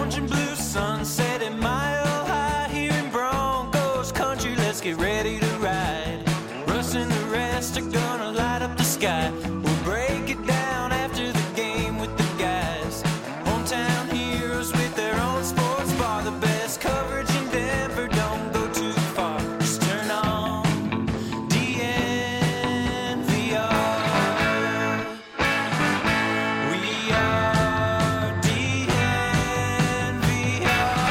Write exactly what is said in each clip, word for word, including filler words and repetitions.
orange and blue sunset at mile high here in Broncos country. Let's get ready to ride. Russ and the rest are gonna light up the sky. We'll break it down after the game with the guys. Hometown heroes with their own sports bar. The best coverage in Denver, don't go too far. Just turn on D N V R. We are D N V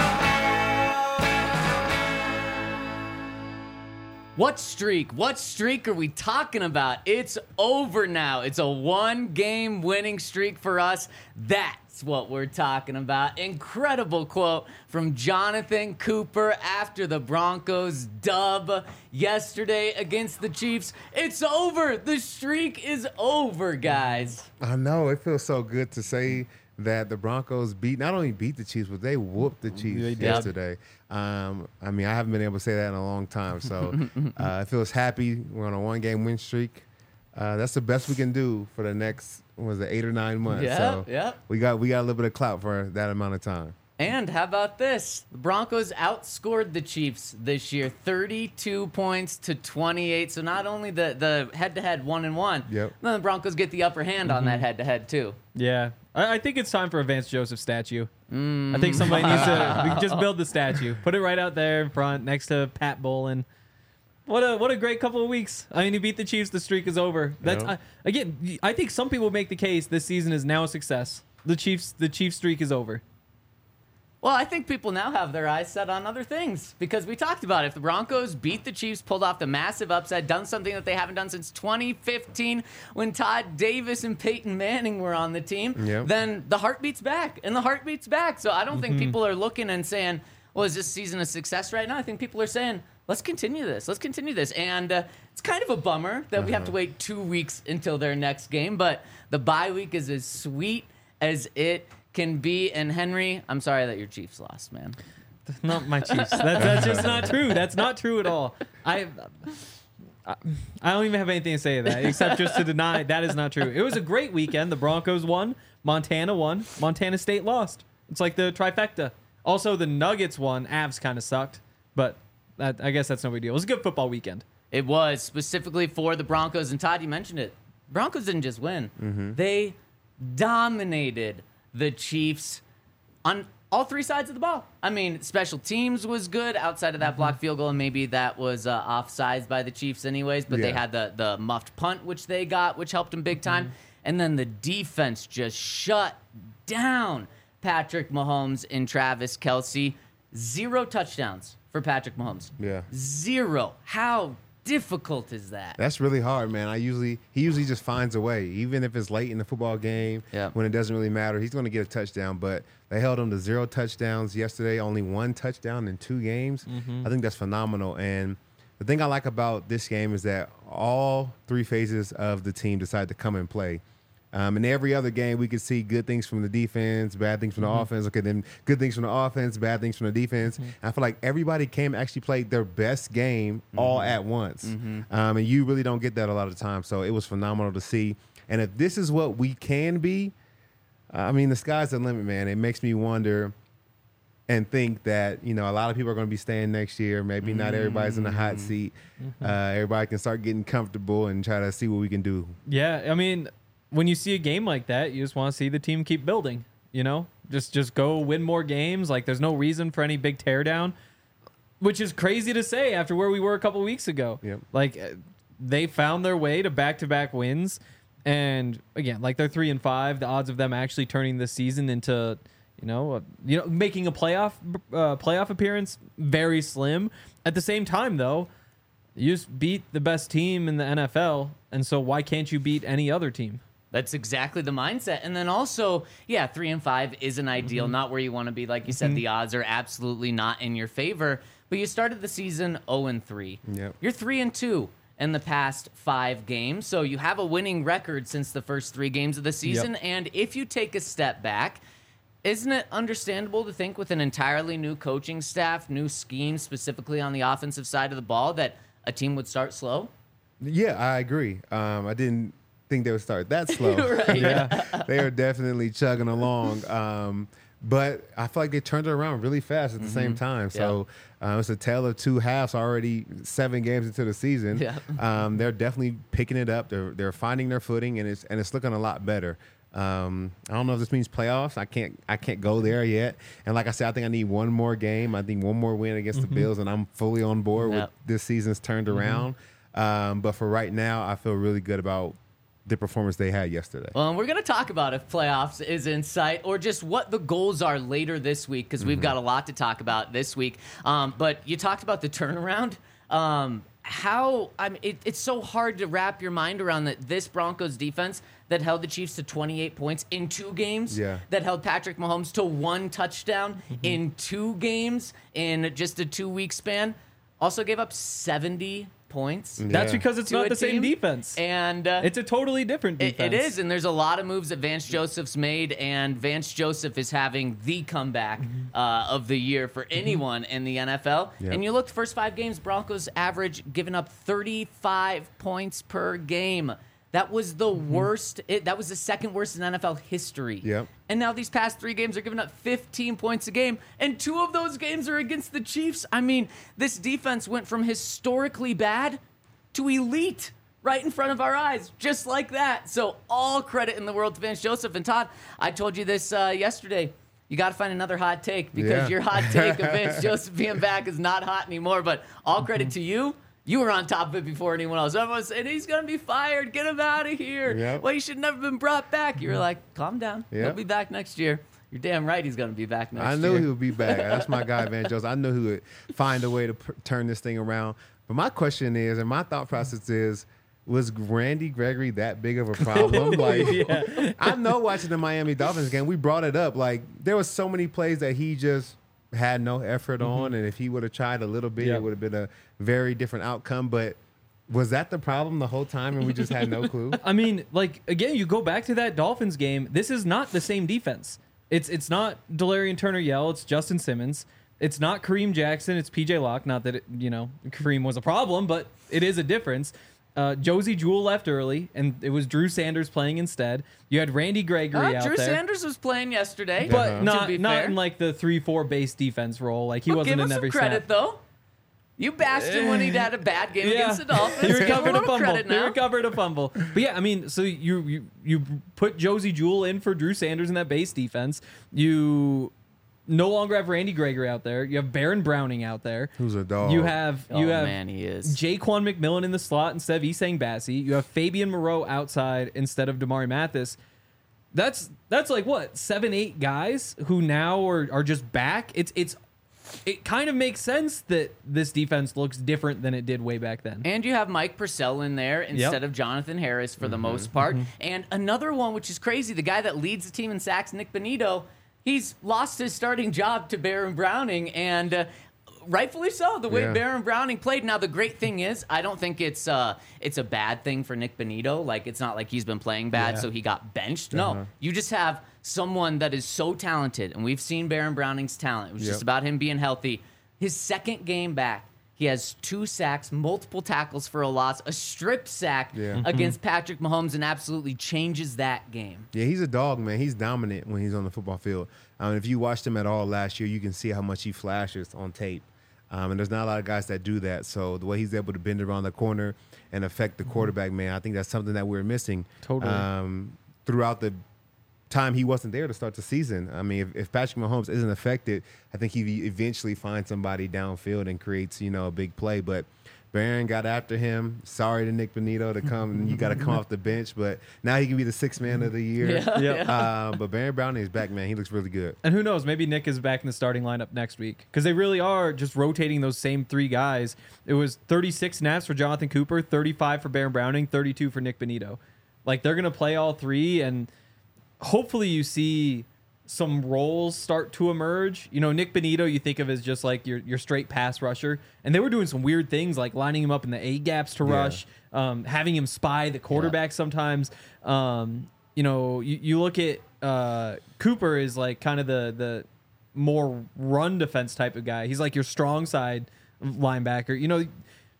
R. What streak? What streak are we talking about? It's over now. It's a one-game winning streak for us. That's what we're talking about. Incredible quote from Jonathan Cooper after the Broncos dub yesterday against the Chiefs. It's over. The streak is over, guys. I know. It feels so good to say that the Broncos beat, not only beat the Chiefs, but they whooped the Chiefs They did. yesterday. Um, I mean, I haven't been able to say that in a long time. So uh, it feels happy. We're on a one-game win streak. Uh, that's the best we can do for the next, what was it, eight or nine months. Yeah, so yeah. We got we got a little bit of clout for that amount of time. And how about this? The Broncos outscored the Chiefs this year, thirty-two points to twenty-eight. So not only the, the head-to-head one and one, Yep. then the Broncos get the upper hand on that head-to-head too. Yeah, I, I think it's time for a Vance Joseph statue. I think somebody needs to we can just build the statue, put it right out there in front next to Pat Bowlen. What a what a great couple of weeks. I mean, he beat the Chiefs. The streak is over. That's Yeah. I, again. I think some people make the case this season is now a success. The Chiefs the Chiefs streak is over. Well, I think people now have their eyes set on other things because we talked about it. If the Broncos beat the Chiefs, pulled off the massive upset, done something that they haven't done since twenty fifteen when Todd Davis and Peyton Manning were on the team, Yep. then the heartbeat's back, and the heartbeat's back. So I don't think people are looking and saying, well, is this season a success right now? I think people are saying, let's continue this. Let's continue this. And uh, it's kind of a bummer that we have to wait two weeks until their next game, but the bye week is as sweet as it can be. And Henry, I'm sorry that your Chiefs lost, man. Not my Chiefs. That's, that's just not true. That's not true at all. I, I I don't even have anything to say to that except just to deny that is not true. It was a great weekend. The Broncos won. Montana won. Montana State lost. It's like the trifecta. Also, the Nuggets won. Avs kind of sucked, but that, I guess that's no big deal. It was a good football weekend. It was specifically for the Broncos. And Todd, you mentioned it. Broncos didn't just win. They dominated the Chiefs on all three sides of the ball. I mean, special teams was good outside of that blocked field goal, and maybe that was uh, offsides by the Chiefs anyways, but they Yeah. had the, the muffed punt, which they got, which helped them big time. And then the defense just shut down Patrick Mahomes and Travis Kelce. Zero touchdowns for Patrick Mahomes. Yeah. Zero. How difficult is that? That's really hard, man. I usually he usually just finds a way, even if it's late in the football game. Yeah. When it doesn't really matter, he's going to get a touchdown. But they held him to zero touchdowns yesterday. Only one touchdown in two games. I think that's phenomenal. And the thing I like about this game is that all three phases of the team decided to come and play. Um, in every other game, we could see good things from the defense, bad things from the offense. Okay, then good things from the offense, bad things from the defense. And I feel like everybody came actually played their best game all at once. Um, and you really don't get that a lot of times. So it was phenomenal to see. And if this is what we can be, I mean, the sky's the limit, man. It makes me wonder and think that, you know, a lot of people are going to be staying next year. Maybe not everybody's in the hot seat. Uh, everybody can start getting comfortable and try to see what we can do. Yeah, I mean, when you see a game like that, you just want to see the team keep building, you know? Just just go win more games. Like, there's no reason for any big teardown, which is crazy to say after where we were a couple weeks ago. Yep. Like, uh, they found their way to back-to-back wins. And, again, like, they're three and five. The odds of them actually turning this season into, you know, a, you know, making a playoff uh, playoff appearance, very slim. At the same time, though, you just beat the best team in the N F L, and so why can't you beat any other team? That's exactly the mindset. And then also, yeah, three and five isn't ideal, not where you want to be. Like you said, the odds are absolutely not in your favor. But you started the season oh and three. Yep. You're three and two in the past five games. So you have a winning record since the first three games of the season. Yep. And if you take a step back, isn't it understandable to think with an entirely new coaching staff, new scheme specifically on the offensive side of the ball, that a team would start slow? Yeah, I agree. Um, I didn't think they would start that slow. Right. Yeah. They are definitely chugging along. Um, but I feel like they turned it around really fast at the same time. So uh, it's a tale of two halves already, seven games into the season. Yeah. Um, they're definitely picking it up. They're they're finding their footing, and it's and it's looking a lot better. Um, I don't know if this means playoffs. I can't I can't go there yet. And like I said, I think I need one more game. I think one more win against the Bills, and I'm fully on board Yep. with this season's turned around. Um, but for right now, I feel really good about the performance they had yesterday. Well, and we're going to talk about if playoffs is in sight or just what the goals are later this week because we've got a lot to talk about this week. Um, but you talked about the turnaround. Um, how I mean, it, it's so hard to wrap your mind around that this Broncos defense that held the Chiefs to twenty-eight points in two games, Yeah. that held Patrick Mahomes to one touchdown in two games in just a two-week span, also gave up seventy points. That's Yeah. because it's to not a the same team. defense. And uh, It's a totally different It, defense. it is, and there's a lot of moves that Vance Joseph's made, and Vance Joseph is having the comeback uh, of the year for anyone in the N F L. Yep. And you look, the first five games, Broncos average giving up thirty-five points per game. That was the worst. It, that was the second worst in N F L history. Yep. And now these past three games are giving up fifteen points a game, and two of those games are against the Chiefs. I mean, this defense went from historically bad to elite right in front of our eyes, just like that. So all credit in the world to Vance Joseph. And Todd, I told you this uh, yesterday. You got to find another hot take because Yeah. your hot take of Vance Joseph being back is not hot anymore. But all credit to you. You were on top of it before anyone else. Everyone was saying, he's going to be fired. Get him out of here. Yep. Well, he should never been brought back. You were like, calm down. He'll Yep. be back next year. You're damn right he's going to be back next I year. knew he would be back. That's my guy, Van Joseph. I knew he would find a way to p- turn this thing around. But my question is, and my thought process is, was Randy Gregory that big of a problem? Like, I know watching the Miami Dolphins game, we brought it up. Like, there was so many plays that he just had no effort on, and if he would have tried a little bit, Yeah. it would have been a very different outcome. But was that the problem the whole time, and we just had no clue? I mean, like, again, you go back to that Dolphins game. This is not the same defense. It's it's not Delarian Turner-Yell. It's Justin Simmons. It's not Kareem Jackson. It's P J Locke. Not that, it, you know, Kareem was a problem, but it is a difference. Uh, Josie Jewell left early, and it was Drew Sanders playing instead. You had Randy Gregory Uh, out Drew there. Sanders was playing yesterday. But Uh-huh. to not be not fair. in like the three four base defense role. Like he Well, wasn't give in him every some credit, snap. though. You bashed him when he had a bad game against the Dolphins. He Give him recovered a little fumble. credit He now. recovered a fumble. But yeah, I mean, so you you you put Josie Jewell in for Drew Sanders in that base defense. You no longer have Randy Gregory out there. You have Baron Browning out there. Who's a dog? You have Oh, you have man, he is. Jaquan McMillan in the slot instead of Isang Bassi. You have Fabian Moreau outside instead of Damari Mathis. That's that's like what seven eight guys who now are are just back. It's it's it kind of makes sense that this defense looks different than it did way back then. And you have Mike Purcell in there instead of Jonathan Harris for the most part. And another one, which is crazy, the guy that leads the team in sacks, Nick Benito, he's lost his starting job to Baron Browning, and uh, rightfully so, the way Yeah. Baron Browning played. Now, the great thing is, I don't think it's uh, it's a bad thing for Nick Benito. Like, it's not like he's been playing bad, Yeah. so he got benched. Uh-huh. No, you just have someone that is so talented, and we've seen Baron Browning's talent. It was Yep. just about him being healthy. His second game back, he has two sacks, multiple tackles for a loss, a strip sack Yeah. against Patrick Mahomes, and absolutely changes that game. Yeah, he's a dog, man. He's dominant when he's on the football field. Um, if you watched him at all last year, you can see how much he flashes on tape. Um, and there's not a lot of guys that do that. So the way he's able to bend around the corner and affect the quarterback, man, I think that's something that we're missing. Totally. Um, throughout the time he wasn't there to start the season. I mean, if, if Patrick Mahomes isn't affected, I think he eventually finds somebody downfield and creates, you know, a big play. But Barron got after him. Sorry to Nick Benito to come. You got to come off the bench, but now he can be the sixth man of the year. Yeah, Yeah. yeah. Uh, but Baron Browning is back, man. He looks really good. And who knows? Maybe Nick is back in the starting lineup next week because they really are just rotating those same three guys. It was thirty-six snaps for Jonathan Cooper, thirty-five for Baron Browning, thirty-two for Nick Benito. Like they're gonna play all three, and hopefully you see some roles start to emerge. You know, Nick Benito, you think of as just like your your straight pass rusher, and they were doing some weird things like lining him up in the A gaps to Yeah. rush, um, having him spy the quarterback sometimes. Um, you know, you, you look at uh, Cooper is like kind of the the more run defense type of guy. He's like your strong side linebacker. You know,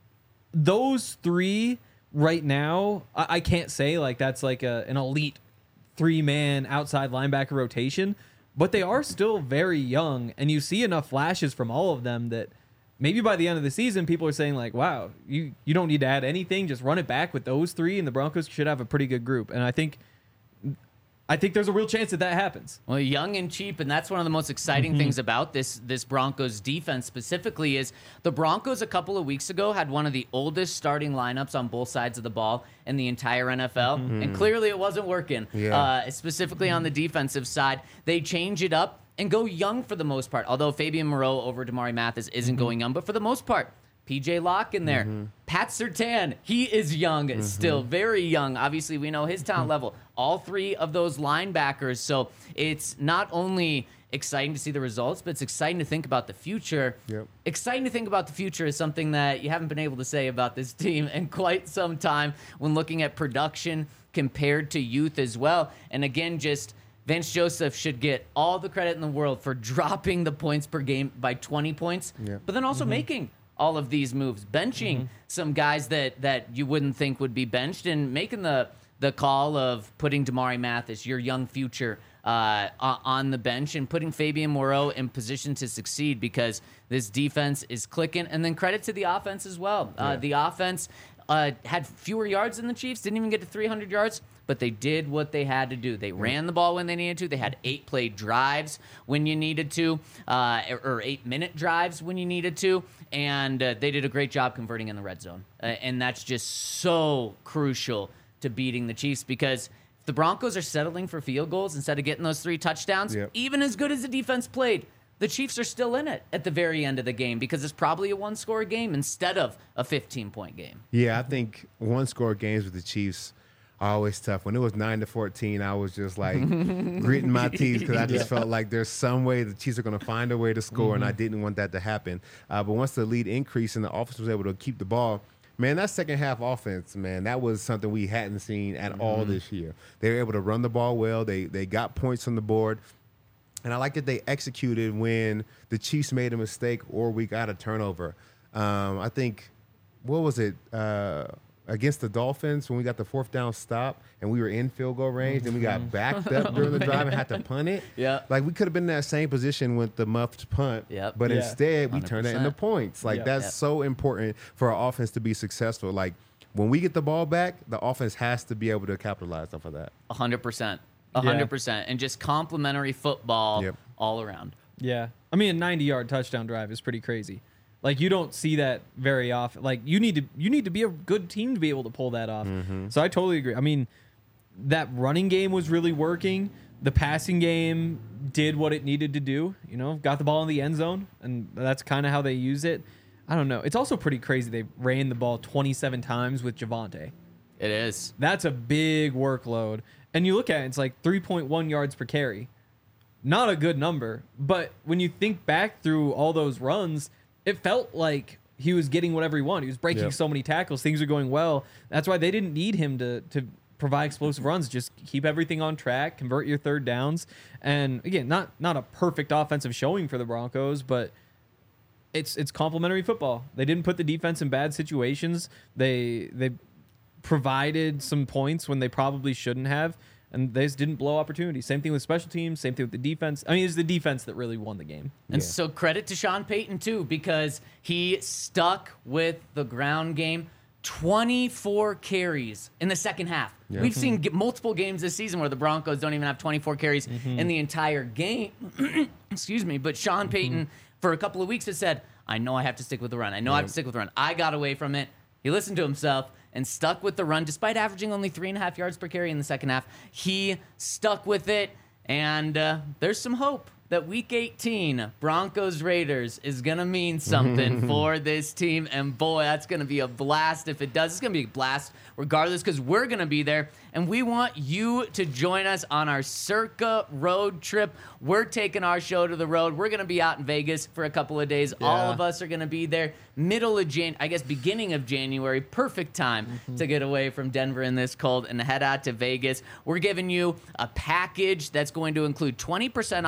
those three right now, I, I can't say like that's like a, an elite three man outside linebacker rotation, but they are still very young, and you see enough flashes from all of them that maybe by the end of the season, people are saying like, wow, you, you don't need to add anything. Just run it back with those three, and the Broncos should have a pretty good group. And I think I think there's a real chance that that happens. Well, young and cheap, and that's one of the most exciting mm-hmm. things about this this Broncos defense specifically is the Broncos a couple of weeks ago had one of the oldest starting lineups on both sides of the ball in the entire N F L, mm-hmm. and clearly it wasn't working, yeah. uh, specifically on the defensive side. They change it up and go young for the most part, although Fabian Moreau over Damari Mathis isn't mm-hmm. going young, but for the most part, P J Locke in there. Mm-hmm. Pat Surtain, he is young mm-hmm. still, very young. Obviously, we know his talent level. All three of those linebackers. So it's not only exciting to see the results, but it's exciting to think about the future. Yep. Exciting to think about the future is something that you haven't been able to say about this team in quite some time when looking at production compared to youth as well. And again, just Vance Joseph should get all the credit in the world for dropping the points per game by twenty points, yep. but then also mm-hmm. making all of these moves, benching mm-hmm. some guys that, that you wouldn't think would be benched, and making the the call of putting Damari Mathis, your young future, uh, on the bench, and putting Fabian Moreau in position to succeed, because this defense is clicking. And then credit to the offense as well. Yeah. Uh, the offense uh, had fewer yards than the Chiefs, didn't even get to three hundred yards, but they did what they had to do. They yeah. ran the ball when they needed to. They had eight play drives when you needed to, uh, or eight minute drives when you needed to. And uh, they did a great job converting in the red zone. Uh, and that's just so crucial to beating the Chiefs, because if the Broncos are settling for field goals instead of getting those three touchdowns, yep. even as good as the defense played, the Chiefs are still in it at the very end of the game, because it's probably a one-score game instead of a fifteen-point game. Yeah, I think one-score games with the Chiefs are always tough. When it was nine to fourteen, I was just like gritting my teeth, because I just yeah. felt like there's some way the Chiefs are going to find a way to score, mm-hmm. and I didn't want that to happen. Uh, but once the lead increased and the offense was able to keep the ball, man, that second half offense, man, that was something we hadn't seen at mm-hmm. all this year. They were able to run the ball well. They they got points on the board. And I like that they executed when the Chiefs made a mistake or we got a turnover. Um, I think, what was it, uh, against the Dolphins when we got the fourth down stop and we were in field goal range and we got backed up during the drive and had to punt it. Yeah. Like, we could have been in that same position with the muffed punt, yep. but yeah. instead we one hundred percent. turned it into points. Like, Yep. that's Yep. so important for our offense to be successful. Like, when we get the ball back, the offense has to be able to capitalize off of that. one hundred percent. one hundred percent. And just complimentary football Yep. all around. Yeah. I mean, a ninety-yard touchdown drive is pretty crazy. Like, you don't see that very often. Like, you need to you need to be a good team to be able to pull that off. Mm-hmm. So I totally agree. I mean, that running game was really working. The passing game did what it needed to do. You know, got the ball in the end zone, and that's kind of how they use it. I don't know. It's also pretty crazy they ran the ball twenty-seven times with Javonte. It is. That's a big workload. And you look at it, it's like three point one yards per carry. Not a good number. But when you think back through all those runs, it felt like he was getting whatever he wanted. He was breaking Yep. so many tackles. Things are going well. That's why they didn't need him to to provide explosive runs. Just keep everything on track, convert your third downs. And again, not not a perfect offensive showing for the Broncos, but it's it's complimentary football. They didn't put the defense in bad situations. They they provided some points when they probably shouldn't have, and they just didn't blow opportunities. Same thing with special teams, same thing with the defense. I mean, it's the defense that really won the game. And Yeah. so credit to Sean Payton, too, because he stuck with the ground game. twenty-four carries in the second half. Yeah. We've seen g- multiple games this season where the Broncos don't even have twenty-four carries Mm-hmm. in the entire game. Excuse me. But Sean Payton, for a couple of weeks, has said, I know I have to stick with the run. I know I have to stick with the run. I got away from it. He listened to himself and stuck with the run, despite averaging only three and a half yards per carry in the second half. He stuck with it, and uh, there's some hope that week eighteen, Broncos Raiders, is going to mean something for this team. And boy, that's going to be a blast if it does. It's going to be a blast regardless, because we're going to be there. And we want you to join us on our Circa road trip. We're taking our show to the road. We're going to be out in Vegas for a couple of days. Yeah. All of us are going to be there middle of Jan, I guess beginning of January. Perfect time Mm-hmm. to get away from Denver in this cold and head out to Vegas. We're giving you a package that's going to include twenty percent off two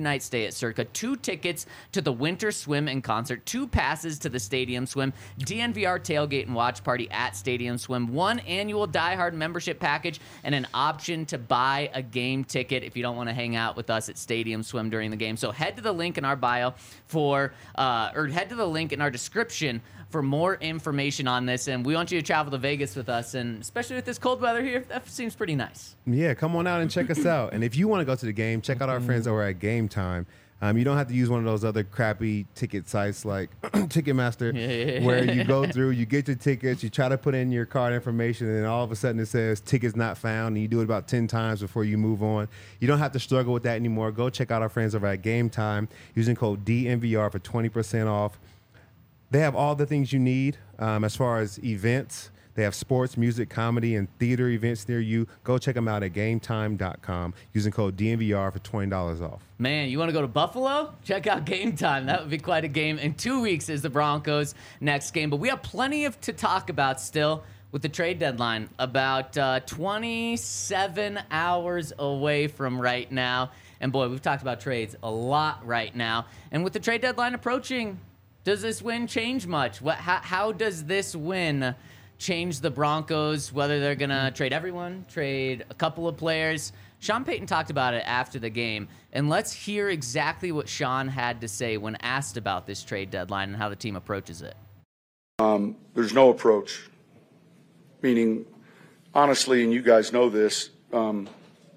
overnight stay at Circa, two tickets to the Winter Swim and Concert, two passes to the Stadium Swim, D N V R tailgate and watch party at Stadium Swim, one annual Die Hard membership package, and an option to buy a game ticket if you don't want to hang out with us at Stadium Swim during the game. So head to the link in our bio for, uh, or head to the link in our description for more information on this. And we want you to travel to Vegas with us, and especially with this cold weather here, that seems pretty nice. Yeah, come on out and check us out. And if you want to go to the game, check out our friends over at Game Time. Um, you don't have to use one of those other crappy ticket sites like Ticketmaster, Yeah. where you go through, you get your tickets, you try to put in your card information, and then all of a sudden it says tickets not found, and you do it about ten times before you move on. You don't have to struggle with that anymore. Go check out our friends over at Game Time using code D N V R for twenty percent off. They have all the things you need um, as far as events. They have sports, music, comedy, and theater events near you. Go check them out at game time dot com using code D N V R for twenty dollars off. Man, you want to go to Buffalo? Check out Game Time. That would be quite a game. In two weeks is the Broncos' next game. But we have plenty of to talk about still with the trade deadline. About uh, twenty-seven hours away from right now. And boy, we've talked about trades a lot right now. And with the trade deadline approaching, does this win change much? What? How, how does this win change the Broncos, whether they're going to trade everyone, trade a couple of players? Sean Payton talked about it after the game, and let's hear exactly what Sean had to say when asked about this trade deadline and how the team approaches it. Um, there's no approach, meaning, honestly, and you guys know this, um,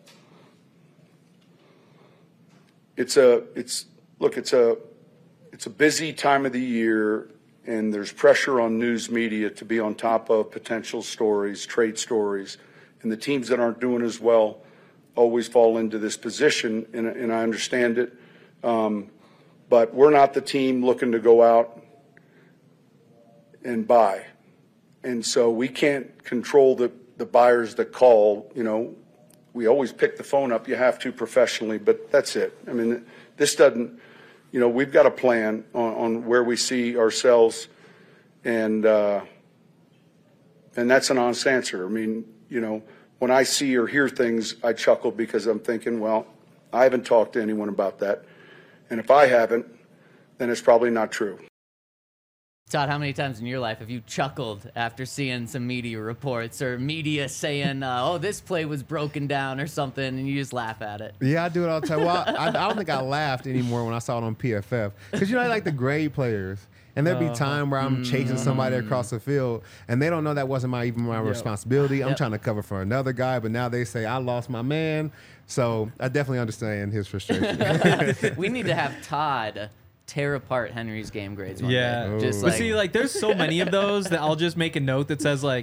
it's a, it's, look, it's a, it's a busy time of the year, and there's pressure on news media to be on top of potential stories, trade stories, and the teams that aren't doing as well always fall into this position, and, and I understand it. Um, but we're not the team looking to go out and buy. And so we can't control the, the buyers that call. You know, we always pick the phone up. You have to professionally, but that's it. I mean, this doesn't, you know, we've got a plan on, on where we see ourselves, and uh, and that's an honest answer. I mean, you know, when I see or hear things, I chuckle because I'm thinking, well, I haven't talked to anyone about that. And if I haven't, then it's probably not true. Todd, how many times in your life have you chuckled after seeing some media reports or media saying, uh, oh, this play was broken down or something, and you just laugh at it? Yeah, I do it all the time. Well, I, I don't think I laughed anymore when I saw it on P F F. Because, you know, I like the grade players. And there'd be time where I'm chasing somebody across the field, and they don't know that wasn't my even my responsibility. I'm Yep. trying to cover for another guy, but now they say I lost my man. So I definitely understand his frustration. We need to have Todd tear apart Henry's game grades one Yeah. day. Just Ooh. But like, see, like, there's so many of those that I'll just make a note that says, like,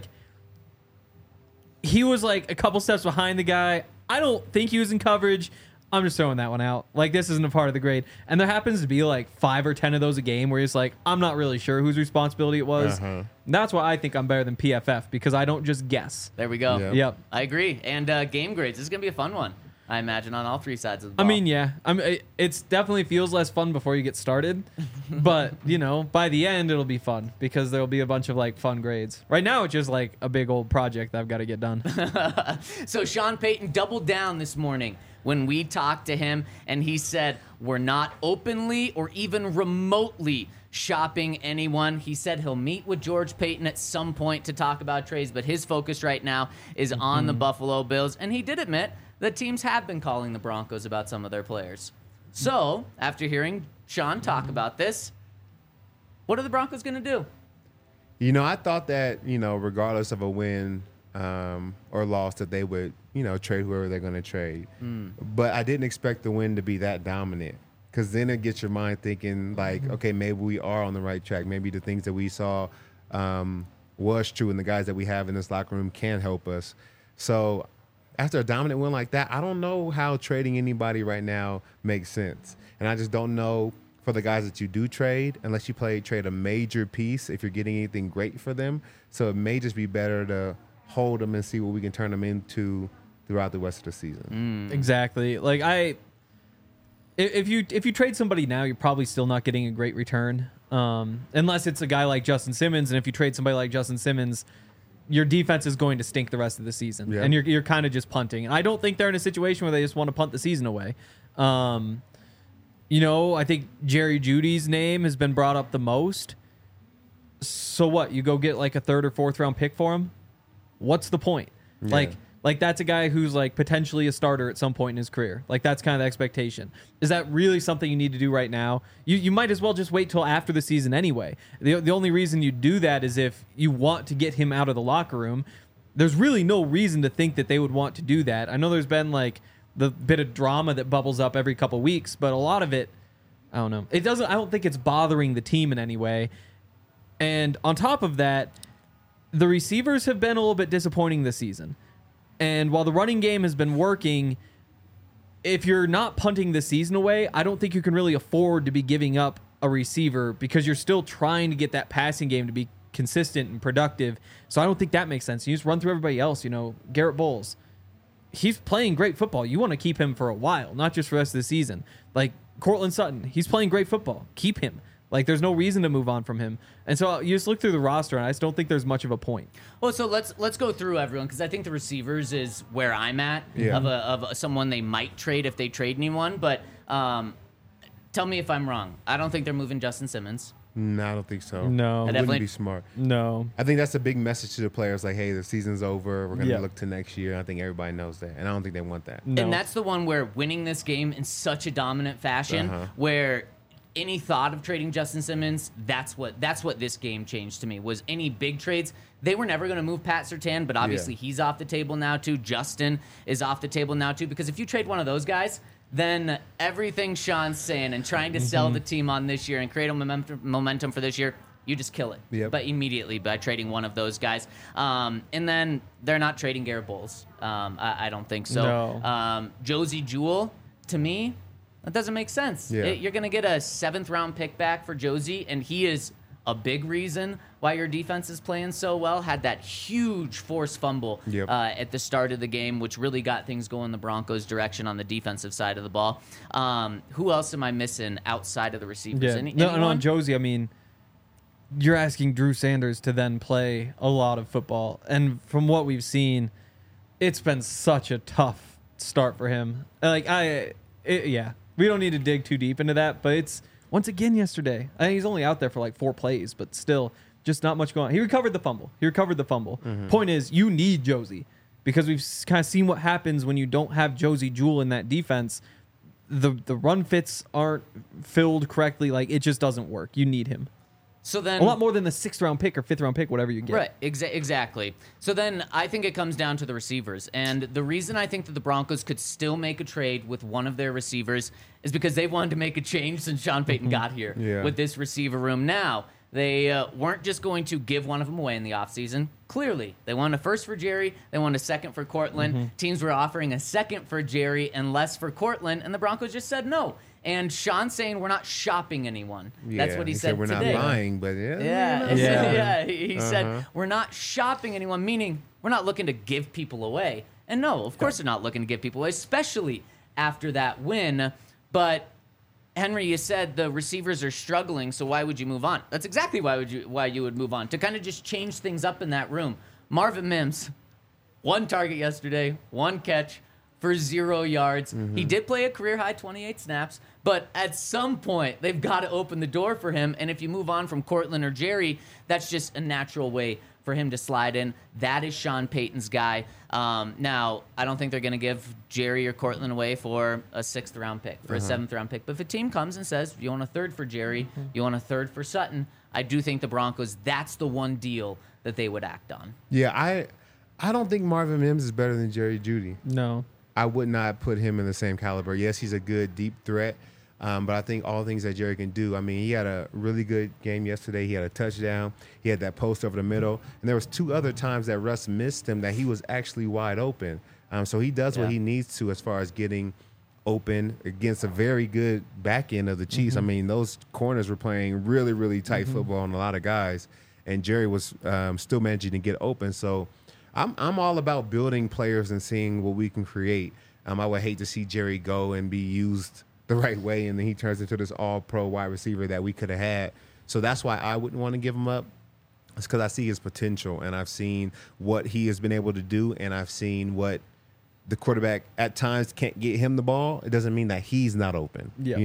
he was, like, a couple steps behind the guy. I don't think he was in coverage. I'm just throwing that one out. Like, this isn't a part of the grade. And there happens to be, like, five or ten of those a game where he's like, I'm not really sure whose responsibility it was. Uh-huh. And that's why I think I'm better than P F F, because I don't just guess. there we go. Yep. Yep. I agree. And uh, game grades, this is going to be a fun one, I imagine, on all three sides of the ball. I mean, yeah. I mean, it it's definitely feels less fun before you get started. But, you know, by the end, it'll be fun because there'll be a bunch of, like, fun grades. Right now, it's just, like, a big old project that I've got to get done. So Sean Payton doubled down this morning when we talked to him, and he said, we're not openly or even remotely shopping anyone. He said he'll meet with George Payton at some point to talk about trades, but his focus right now is on the Buffalo Bills. And he did admit that teams have been calling the Broncos about some of their players. So, after hearing Sean talk about this, what are the Broncos going to do? You know, I thought that, you know, regardless of a win um, or loss, that they would, you know, trade whoever they're going to trade. Mm. But I didn't expect the win to be that dominant, because then it gets your mind thinking, like, mm-hmm. okay, maybe we are on the right track. Maybe the things that we saw um, was true, and the guys that we have in this locker room can help us. So after a dominant win like that, I don't know how trading anybody right now makes sense. And I just don't know for the guys that you do trade, unless you play trade a major piece, if you're getting anything great for them. So it may just be better to hold them and see what we can turn them into throughout the rest of the season. Mm. Exactly. Like, I, if you if you trade somebody now, you're probably still not getting a great return, um, unless it's a guy like Justin Simmons. And if you trade somebody like Justin Simmons, your defense is going to stink the rest of the season, yeah. and you're you're kind of just punting. And I don't think they're in a situation where they just want to punt the season away. Um, you know, I think Jerry Jeudy's name has been brought up the most. So what? You go get like a third or fourth round pick for him? What's the point? Yeah. Like, like that's a guy who's like potentially a starter at some point in his career. Like that's kind of the expectation. Is that really something you need to do right now? You you might as well just wait till after the season anyway. The the only reason you do that is if you want to get him out of the locker room. There's really no reason to think that they would want to do that. I know there's been like the bit of drama that bubbles up every couple weeks, but a lot of it, I don't know. It doesn't. I don't think it's bothering the team in any way. And on top of that, the receivers have been a little bit disappointing this season. And while the running game has been working, if you're not punting the season away, I don't think you can really afford to be giving up a receiver because you're still trying to get that passing game to be consistent and productive. So I don't think that makes sense. You just run through everybody else. You know, Garrett Bowles, he's playing great football. You want to keep him for a while, not just for the rest of the season. Like Cortland Sutton, he's playing great football. Keep him. Like, there's no reason to move on from him. And so you just look through the roster, and I just don't think there's much of a point. Well, so let's let's go through everyone, because I think the receivers is where I'm at Yeah. of a, of a, someone they might trade if they trade anyone. But um, tell me if I'm wrong. I don't think they're moving Justin Simmons. No, I don't think so. No. It I definitely- wouldn't be smart. No. I think that's a big message to the players. Like, hey, the season's over. We're going to Yeah. look to next year. I think everybody knows that. And I don't think they want that. No. And that's the one where winning this game in such a dominant fashion, Uh-huh. where any thought of trading Justin Simmons, that's what that's what this game changed to me, was any big trades. They were never going to move Pat Surtain, but obviously Yeah. he's off the table now too. Justin is off the table now too, because if you trade one of those guys, then everything Sean's saying and trying to sell the team on this year and create a momentum, momentum for this year, you just kill it. Yep. But immediately by trading one of those guys. Um, and then they're not trading Garrett Bowles. Um, I, I don't think so. No. Um, Josie Jewell, to me, that doesn't make sense. Yeah. It- you're going to get a seventh round pick back for Josie, and he is a big reason why your defense is playing so well. Had that huge forced fumble Yep. uh, at the start of the game, which really got things going the Broncos' direction on the defensive side of the ball. Um, who else am I missing outside of the receivers? Yeah. Any, no, and anyone? on Josie, I mean, you're asking Drew Sanders to then play a lot of football. And from what we've seen, it's been such a tough start for him. Like, I, it, yeah, we don't need to dig too deep into that, but it's, once again yesterday, I mean, he's only out there for like four plays, but still, just not much going on. He recovered the fumble. He recovered the fumble. Point is, you need Josie, because we've kind of seen what happens when you don't have Josie Jewell in that defense. The the run fits aren't filled correctly. Like, it just doesn't work. You need him. So then, A lot more than the sixth round pick or fifth round pick, whatever you get. Right, exa- exactly. So then I think it comes down to the receivers. And the reason I think that the Broncos could still make a trade with one of their receivers is because they've wanted to make a change since Sean Payton got here Yeah. with this receiver room. Now, they uh, weren't just going to give one of them away in the offseason. Clearly, they wanted a first for Jerry. They wanted a second for Cortland. Teams were offering a second for Jerry and less for Cortland, and the Broncos just said no. And Sean's saying we're not shopping anyone. That's Yeah, what he, he said we're today. not buying, but yeah. Yeah, you know. Yeah. yeah. He, he Uh-huh. said we're not shopping anyone, meaning we're not looking to give people away. And no, of course they're not looking to give people away, especially after that win. But Henry, you said the receivers are struggling, so why would you move on? That's exactly why would you why you would move on, to kind of just change things up in that room. Marvin Mims, one target yesterday, one catch for zero yards. He did play a career high twenty-eight snaps, but at some point they've got to open the door for him. And if you move on from Cortland or Jerry, that's just a natural way for him to slide in. That is Sean Payton's guy. Um, now, I don't think they're going to give Jerry or Cortland away for a sixth round pick, for a seventh round pick. But if a team comes and says, you want a third for Jerry, you want a third for Sutton, I do think the Broncos, that's the one deal that they would act on. Yeah, I I don't think Marvin Mims is better than Jerry Jeudy. No. I would not put him in the same caliber. Yes, he's a good deep threat, um, but I think all things that Jerry can do. I mean, he had a really good game yesterday. He had a touchdown. He had that post over the middle, and there was two other times that Russ missed him that he was actually wide open. Um, so he does Yeah. what he needs to as far as getting open against a very good back end of the Chiefs. I mean, those corners were playing really, really tight football on a lot of guys, and Jerry was um, still managing to get open. So I'm I'm all about building players and seeing what we can create. Um, I would hate to see Jerry go and be used the right way, and then he turns into this all-pro wide receiver that we could have had. So that's why I wouldn't want to give him up. It's because I see his potential, and I've seen what he has been able to do, and I've seen what the quarterback at times can't get him the ball. It doesn't mean that he's not open. Yeah. You know?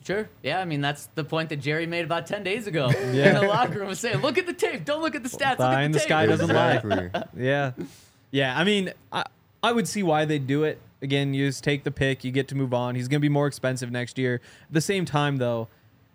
Sure. Yeah, I mean, that's the point that Jerry made about ten days ago Yeah. in the locker room, was saying, look at the tape. Don't look at the stats. Fly look at in the, the tape. sky doesn't lie. Exactly. Yeah. Yeah. I mean, I, I would see why they do it. Again, you just take the pick, you get to move on. He's going to be more expensive next year. At the same time, though,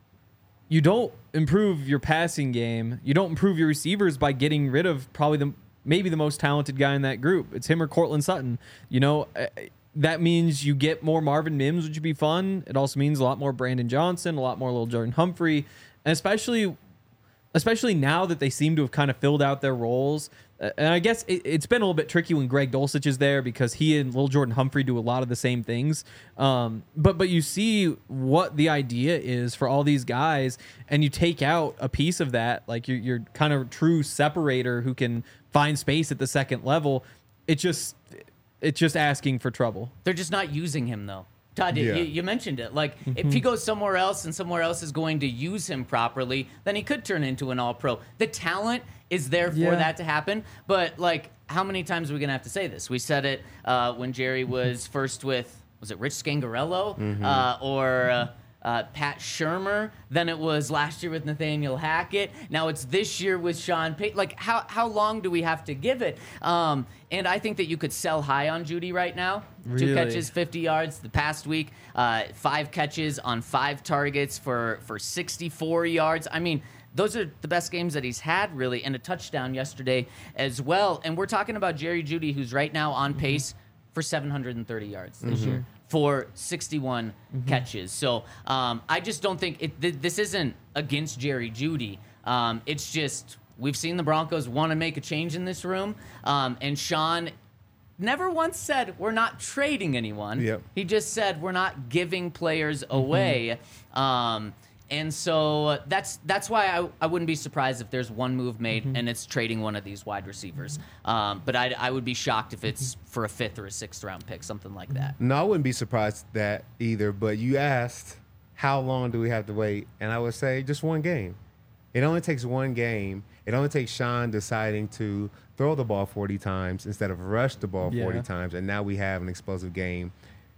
you don't improve your passing game. You don't improve your receivers by getting rid of probably the maybe the most talented guy in that group. It's him or Cortland Sutton. You know, uh, that means you get more Marvin Mims, which would be fun. It also means a lot more Brandon Johnson, a lot more little Jordan Humphrey, and especially especially now that they seem to have kind of filled out their roles. Uh, and I guess it, it's been a little bit tricky when Greg Dulcich is there because he and Lil Jordan Humphrey do a lot of the same things. Um, but but you see what the idea is for all these guys, and you take out a piece of that, like you're, you're kind of true separator who can find space at the second level. It just it's just asking for trouble. They're just not using him, though. Todd, Yeah. you, you mentioned it. Like, if he goes somewhere else and somewhere else is going to use him properly, then he could turn into an all-pro. The talent is there for Yeah. that to happen. But, like, how many times are we going to have to say this? We said it uh, when Jerry was first with, was it Rich Scangarello? Uh, or... Uh, Uh, Pat Shermer. Then it was last year with Nathaniel Hackett. Now it's this year with Sean Payton. Like, how how long do we have to give it? Um, and I think that you could sell high on Judy right now. Two Really? catches, fifty yards the past week. Uh, five catches on five targets for, for sixty-four yards. I mean, those are the best games that he's had, really, and a touchdown yesterday as well. And we're talking about Jerry Jeudy, who's right now on pace for seven hundred thirty yards this year. For sixty-one catches. So um, I just don't think it, th- this isn't against Jerry Jeudy. Um, it's just we've seen the Broncos want to make a change in this room. Um, and Sean never once said we're not trading anyone. Yep. He just said we're not giving players away. Um, and so that's that's why I, I wouldn't be surprised if there's one move made and it's trading one of these wide receivers. Um, but I, I would be shocked if it's for a fifth or a sixth round pick, something like that. No, I wouldn't be surprised at that either. But you asked, how long do we have to wait? And I would say just one game. It only takes one game. It only takes Sean deciding to throw the ball forty times instead of rush the ball Yeah. forty times. And now we have an explosive game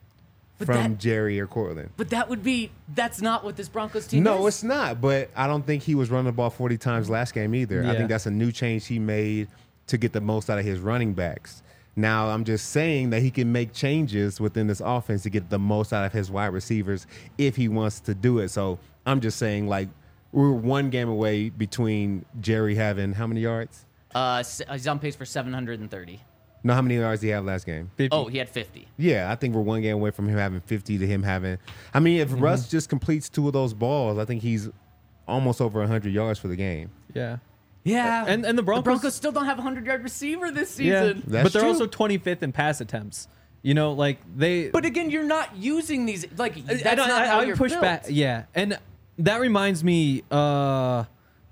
But from that- Jerry or Cortland. But that would be, that's not what this Broncos team No, is. it's not. But I don't think he was running the ball forty times last game either. I Yeah. think that's a new change he made to get the most out of his running backs. Now, I'm just saying that he can make changes within this offense to get the most out of his wide receivers if he wants to do it. So I'm just saying, like, we're one game away between Jerry having how many yards? Uh, s- he's on pace for seven hundred thirty. No, how many yards did he have last game? fifty. Oh, he had fifty. Yeah, I think we're one game away from him having fifty to him having. I mean, if Mm-hmm. Russ just completes two of those balls, I think he's almost over one hundred yards for the game. Yeah. Yeah. And- and the Broncos- still don't have a hundred-yard receiver this Yeah. season. That's but they're true. also twenty-fifth in pass attempts. You know, like they. But again, you're not using these. Like, that's I, not I, how I you're would push built. back. Yeah, and that reminds me. Uh,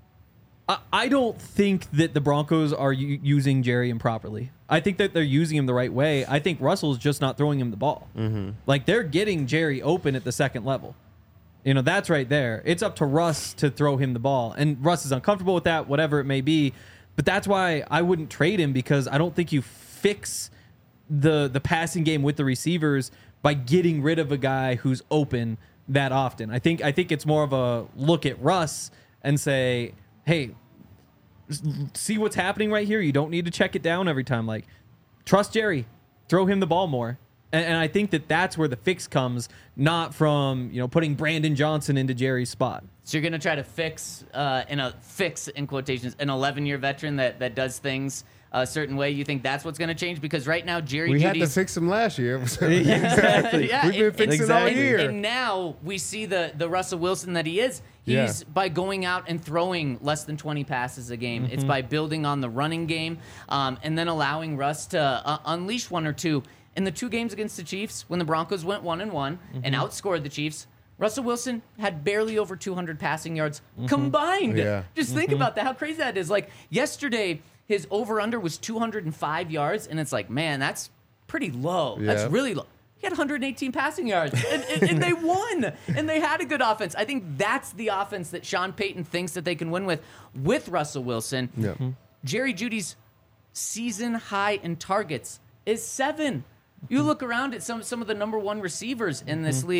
I, I don't think that the Broncos are u- using Jerry improperly. I think that they're using him the right way. I think Russell's just not throwing him the ball. Mm-hmm. Like they're getting Jerry open at the second level. You know, that's right there. It's up to Russ to throw him the ball, and Russ is uncomfortable with that, whatever it may be. But that's why I wouldn't trade him, because I don't think you fix the the passing game with the receivers by getting rid of a guy who's open that often. I think I think it's more of a look at Russ and say, hey, s- see what's happening right here. You don't need to check it down every time. Like, trust Jerry, throw him the ball more. And, and I think that that's where the fix comes, not from, you know, putting Brandon Johnson into Jerry's spot. So you're gonna try to fix, uh, in a fix in quotations, an eleven-year veteran that that does things a certain way. You think that's what's gonna change? Because right now, Jerry We had to Judy's fix him last year. Exactly. yeah, We've been and- fixing and- all and- year. And now we see the the Russell Wilson that he is. He's Yeah. by going out and throwing less than twenty passes a game. It's by building on the running game, um, and then allowing Russ to uh, unleash one or two. In the two games against the Chiefs, when the Broncos went one and one and outscored the Chiefs, Russell Wilson had barely over two hundred passing yards combined. Yeah. Just think about that, how crazy that is. Like yesterday, his over-under was two hundred five yards, and it's like, man, that's pretty low. Yeah. That's really low. He had one hundred eighteen passing yards, and, and, and they won, and they had a good offense. I think that's the offense that Sean Payton thinks that they can win with, with Russell Wilson. Yeah. Jerry Judy's season high in targets is seven. You look around at some some of the number one receivers in this league.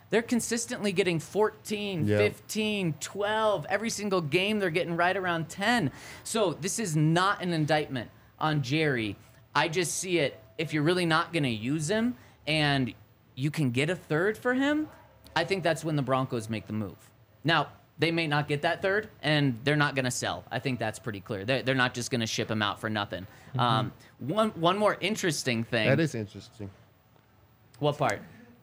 they're consistently getting fourteen, Yep. fifteen, twelve. Every single game they're getting right around ten. So this is not an indictment on Jerry. I just see it, if you're really not going to use him and you can get a third for him, I think that's when the Broncos make the move. Now, they may not get that third, and they're not going to sell. I think that's pretty clear. They're, they're not just going to ship him out for nothing. Mm-hmm. Um, one one more interesting thing. That is interesting. What part?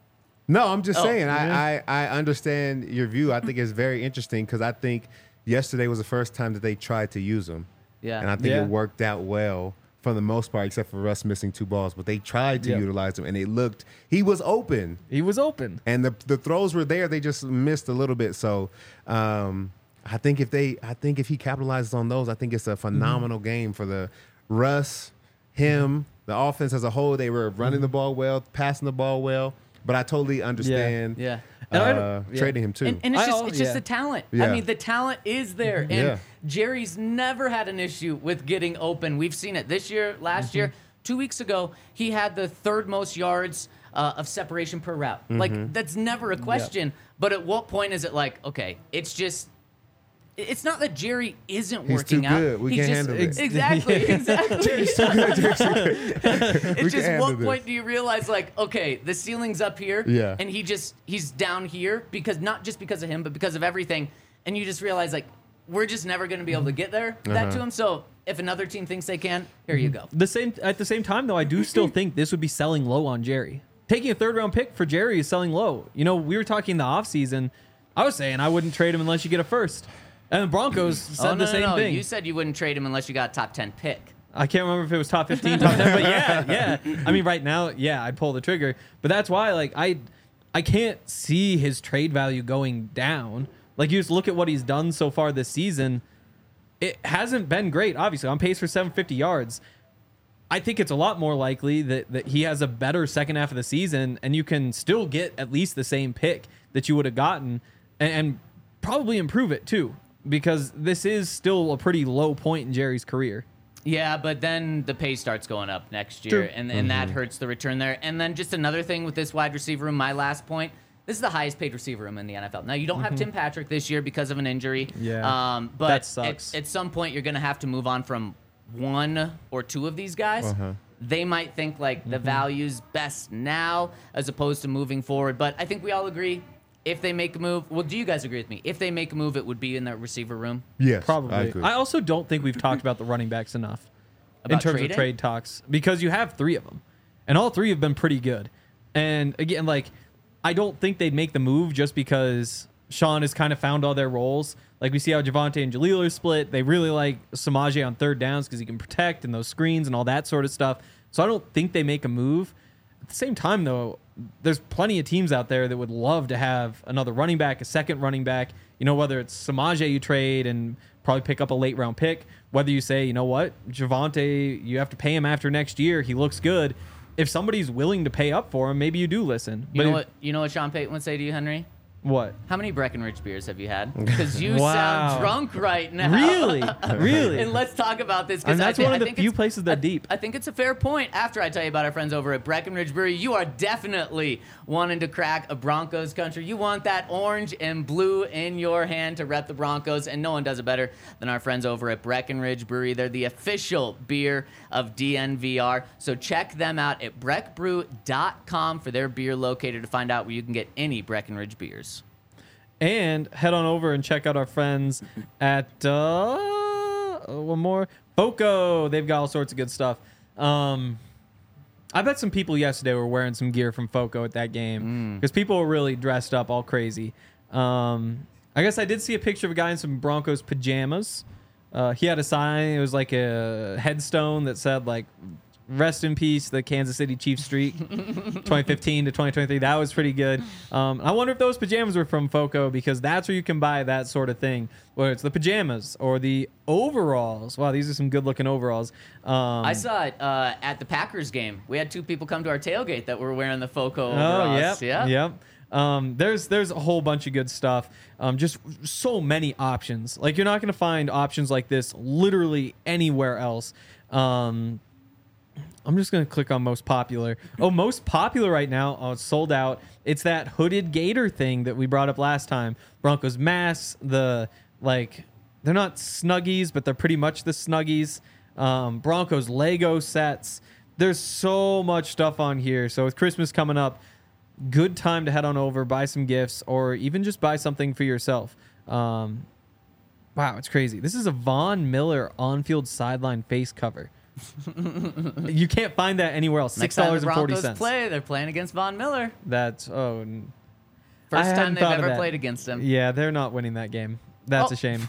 No, I'm just Oh, saying. I, I I understand your view. I think it's very interesting because I think yesterday was the first time that they tried to use him. Yeah. And I think Yeah. it worked out well for the most part, except for Russ missing two balls. But they tried to Yep. utilize him, and it looked he was open, He was open. and the the throws were there. They just missed a little bit. So um, I think if they, I think if he capitalizes on those, I think it's a phenomenal game for the Russ, him, the offense as a whole. They were running the ball well, passing the ball well. But I totally understand. Yeah. And I Uh, don't- yeah. trading him too. And, and it's I just al- it's just yeah. the talent. Yeah. I mean, the talent is there, and Yeah. Jerry's never had an issue with getting open. We've seen it this year, last Mm-hmm. year, two weeks ago. He had the third most yards uh, of separation per route. Mm-hmm. Like that's never a question. But at what point is it like, okay, it's just. It's not that Jerry isn't He's working too out. good. We He's can't just, handle it. Exactly, exactly. Jerry's too good. Jerry's too good. We It's just can what handle point this. do you realize like, okay, the ceiling's up here, Yeah. and he just he's down here because not just because of him, but because of everything, and you just realize like we're just never going to be able to get there that Uh-huh. to him. So if another team thinks they can, here you go. The same at the same time though, I do still think this would be selling low on Jerry. Taking a third round pick for Jerry is selling low. You know, we were talking in the offseason. I was saying I wouldn't trade him unless you get a first. And the Broncos said oh, no, the same no, no. thing. You said you wouldn't trade him unless you got a top ten pick. I can't remember if it was top fifteen, top ten, but yeah, yeah. I mean, right now, yeah, I'd pull the trigger. But that's why, like, I, I can't see his trade value going down. Like, you just look at what he's done so far this season. It hasn't been great. Obviously, on pace for seven hundred fifty yards. I think it's a lot more likely that, that he has a better second half of the season, and you can still get at least the same pick that you would have gotten, and, and probably improve it too. Because this is still a pretty low point in Jerry's career. Yeah, but then the pay starts going up next year, True. and, and that hurts the return there. And then just another thing with this wide receiver room, my last point, this is the highest paid receiver room in the N F L. Now, you don't have Tim Patrick this year because of an injury. Yeah, Um, but that sucks. At, at some point, you're going to have to move on from one or two of these guys. Uh-huh. They might think like the value's best now as opposed to moving forward. But I think we all agree if they make a move, well, do you guys agree with me? If they make a move, it would be in the receiver room. Yes, Probably. I I, agree. also don't think we've talked about the running backs enough in About terms trading? of trade talks because you have three of them, and all three have been pretty good. And again, like I don't think they'd make the move just because Sean has kind of found all their roles. Like we see how Javonte and Jaleel are split. They really like Samaje on third downs because he can protect and those screens and all that sort of stuff. So I don't think they make a move. At the same time, though, there's plenty of teams out there that would love to have another running back, a second running back. You know, whether it's Samaje you trade and probably pick up a late round pick, whether you say, you know what, Javonte, you have to pay him after next year. He looks good. If somebody's willing to pay up for him, maybe you do listen. You But know if- what? You know what Sean Payton would say to you, Henry? What? How many Breckenridge beers have you had? Because you Wow. sound drunk right now. Really? Really? And let's talk about this. 'cause And I that's thi- one I of the think few it's- places that I- deep. I think it's a fair point. After I tell you about our friends over at Breckenridge Brewery, you are definitely wanting to crack a Broncos country. You want that orange and blue in your hand to rep the Broncos, and no one does it better than our friends over at Breckenridge Brewery. They're the official beer of D N V R. So check them out at breck brew dot com for their beer locator to find out where you can get any Breckenridge beers. And head on over and check out our friends at uh, one more Foco. They've got all sorts of good stuff. Um, I bet some people yesterday were wearing some gear from Foco at that game because people were really dressed up all crazy. Um, I guess I did see a picture of a guy in some Broncos pajamas. Uh, he had a sign. It was like a headstone that said like "Rest in peace, the Kansas City Chiefs streak, twenty fifteen to twenty twenty-three." That was pretty good. Um, I wonder if those pajamas were from Foco because that's where you can buy that sort of thing, whether it's the pajamas or the overalls. Wow, these are some good-looking overalls. Um, I saw it uh, at the Packers game. We had two people come to our tailgate that were wearing the Foco Oh, overalls. yep, Yeah. yep. Um, there's there's a whole bunch of good stuff. Um, just so many options. Like you're not going to find options like this literally anywhere else. Um, I'm just gonna click on most popular. Oh, most popular right now. Oh, it's sold out. It's that hooded gator thing that we brought up last time. Broncos masks. The like, they're not Snuggies, but they're pretty much the Snuggies. Um, Broncos Lego sets. There's so much stuff on here. So with Christmas coming up, good time to head on over, buy some gifts, or even just buy something for yourself. Um, wow, it's crazy. This is a Von Miller on-field sideline face cover. You can't find that anywhere else. Six dollars and forty Next time the Broncos cents. play, they're playing against Von Miller. That's oh, n- I First hadn't time they've thought of ever that. played against him. Yeah, they're not winning that game. That's Oh. a shame.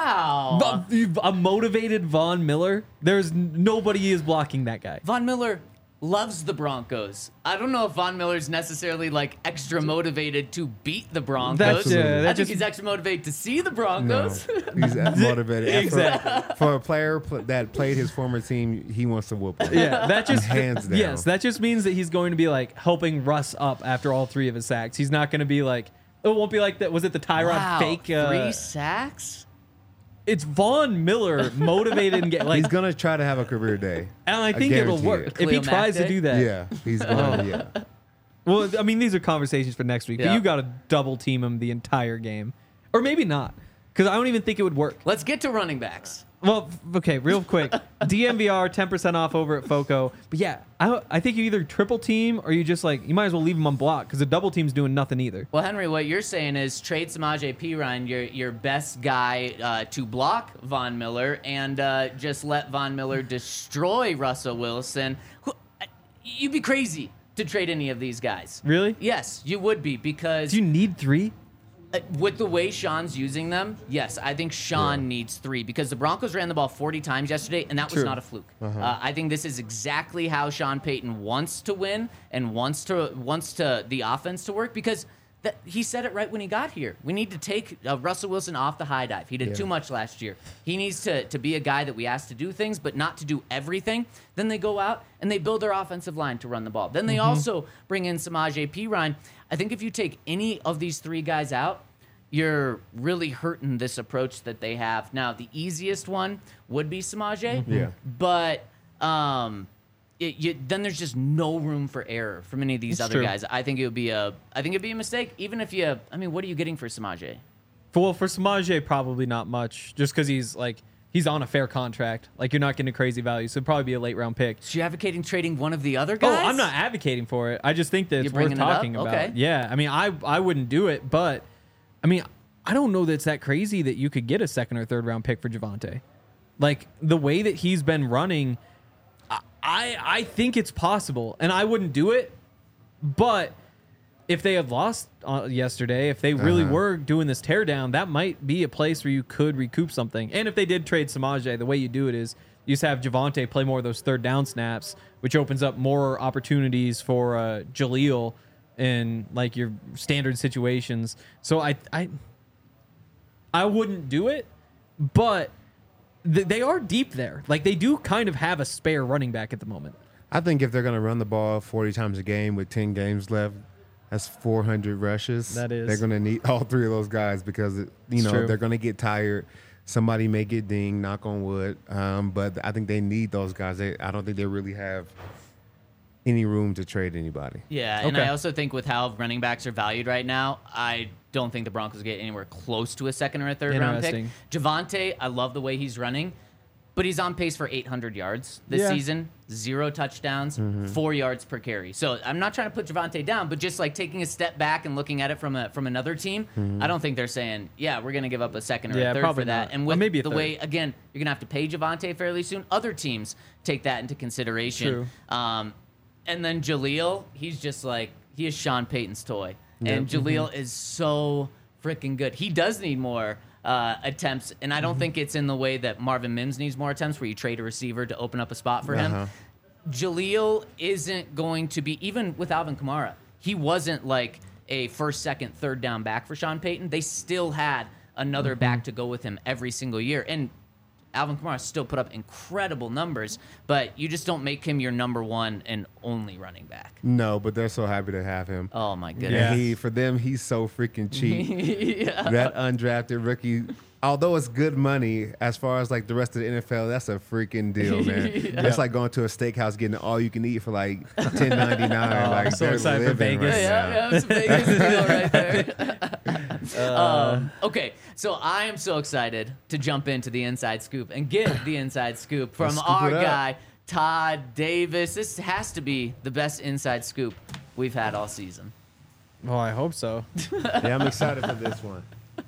Wow. But a motivated Von Miller. There's n- nobody is blocking that guy. Von Miller loves the Broncos. I don't know if Von Miller's necessarily like extra motivated to beat the Broncos. That's- yeah, I that think just- he's extra motivated to see the No, Broncos. he's motivated. Exactly. For, for a player pl- that played his former team, he wants to whoop him. Yeah, that just Hands down. Yes, that just means that he's going to be like helping Russ up after all three of his sacks. He's not going to be like it won't be like that. Was it the Tyrod Wow, fake? Uh, three sacks? It's Von Miller motivated and get like. He's gonna try to have a career day. and I think it'll guarantee work it. if he Khalil Mack tries to day? do that. Yeah, he's gonna. Yeah, Well, I mean, these are conversations for next week, Yeah. but you got to double team him the entire game, or maybe not, because I don't even think it would work. Let's get to running backs. Well, f- okay, real quick, D M V R ten percent off over at Foco. But yeah, I I think you either triple team or you just like you might as well leave him on block because the double team's doing nothing either. Well, Henry, what you're saying is trade Samaje Perine, your your best guy uh, to block Von Miller, and uh, just let Von Miller destroy Russell Wilson. Who, uh, you'd be crazy to trade any of these guys. Really? Yes, you would be because Do you need three? uh, with the way Sean's using them, yes, I think Sean needs three because the Broncos ran the ball forty times yesterday, and that was True. not a fluke. Uh, I think this is exactly how Sean Payton wants to win and wants to wants to the offense to work because that, he said it right when he got here. We need to take uh, Russell Wilson off the high dive. He did Yeah. too much last year. He needs to to be a guy that we ask to do things, but not to do everything. Then they go out and they build their offensive line to run the ball. Then they also bring in Samaje Perine. I think if you take any of these three guys out, you're really hurting this approach that they have. Now, the easiest one would be Samaje, Yeah. but um, it, you, then there's just no room for error from any of these It's other true. guys. I think it would be a, I think it'd be a mistake, even if you. I mean, what are you getting for Samaje? For, well, for Samaje, probably not much, just because he's like he's on a fair contract. Like you're not getting a crazy value, so it'd probably be a late round pick. So you advocating trading one of the other Oh, guys? I'm not advocating for it. I just think that You're it's worth bringing it up? talking about. Okay. Yeah, I mean, I I wouldn't do it, but I mean, I don't know that it's that crazy that you could get a second or third round pick for Javonte. Like the way that he's been running, I I, I think it's possible, and I wouldn't do it. But if they had lost uh, yesterday, if they really Uh-huh. were doing this teardown, that might be a place where you could recoup something. And if they did trade Samaje, the way you do it is you just have Javonte play more of those third down snaps, which opens up more opportunities for uh, Jaleel in like your standard situations. So I I I wouldn't do it, but th- they are deep there. Like they do kind of have a spare running back at the moment. I think if they're gonna run the ball forty times a game with ten games left, that's four hundred rushes. That is. They're gonna need all three of those guys because you It's know true. they're gonna get tired. Somebody may get dinged, knock on wood. Um, but I think they need those guys. They, I don't think they really have any room to trade anybody. Yeah, and Okay. I also think with how running backs are valued right now, I don't think the Broncos get anywhere close to a second or a third round pick. Interesting. Javonte, I love the way he's running, but he's on pace for eight hundred yards this Yeah. season, zero touchdowns, four yards per carry. So I'm not trying to put Javonte down, but just like taking a step back and looking at it from a from another team, I don't think they're saying, yeah, we're going to give up a second or Yeah, a third probably for that. not. And Or with maybe a the third. way, again, you're going to have to pay Javonte fairly soon. Other teams take that into consideration. True. Um, and then Jaleel, he's just like, he is Sean Payton's toy. And Jaleel is so freaking good. He does need more uh, attempts, and I don't think it's in the way that Marvin Mims needs more attempts, where you trade a receiver to open up a spot for Uh-huh. him. Jaleel isn't going to be, even with Alvin Kamara, he wasn't like a first, second, third down back for Sean Payton. They still had another back to go with him every single year. And Alvin Kamara still put up incredible numbers, but you just don't make him your number one and only running back. No, but they're so happy to have him. Oh my And goodness. he, for them, he's so freaking cheap. Yeah. That undrafted rookie although it's good money as far as like the rest of the N F L, that's a freaking deal, man. Yeah. That's like going to a steakhouse getting all you can eat for like ten ninety nine. Oh, like I'm so they're excited for living Vegas. right Yeah, now. yeah, it's a Vegas deal right there. um, okay, so I am so excited to jump into the inside scoop and get the inside scoop from Let's scoop our it up. guy, Todd Davis. This has to be the best inside scoop we've had all season. Oh, I hope so. Yeah, I'm excited for this one.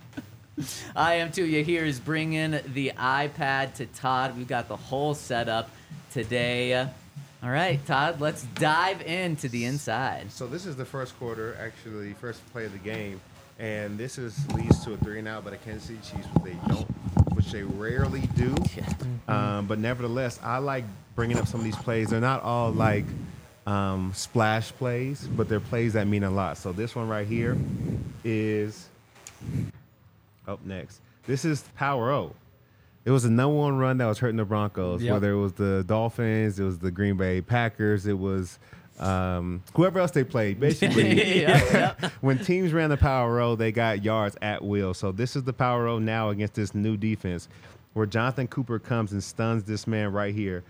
I am too. You hear is bringing the iPad to Todd. We've got the whole setup today. All right, Todd, let's dive into the inside. So this is the first quarter, actually, first play of the game, and this is leads to a three and out by the Kansas City Chiefs, which they don't, which they rarely do. Um, but nevertheless, I like bringing up some of these plays. They're not all like um, splash plays, but they're plays that mean a lot. So this one right here is up next. This is Power O. It was the number one run that was hurting the Broncos, Yep. whether it was the Dolphins, it was the Green Bay Packers, it was um, whoever else they played. Basically, Yeah, yeah. when teams ran the Power O, they got yards at will. So this is the Power O now against this new defense, where Jonathan Cooper comes and stuns this man right here,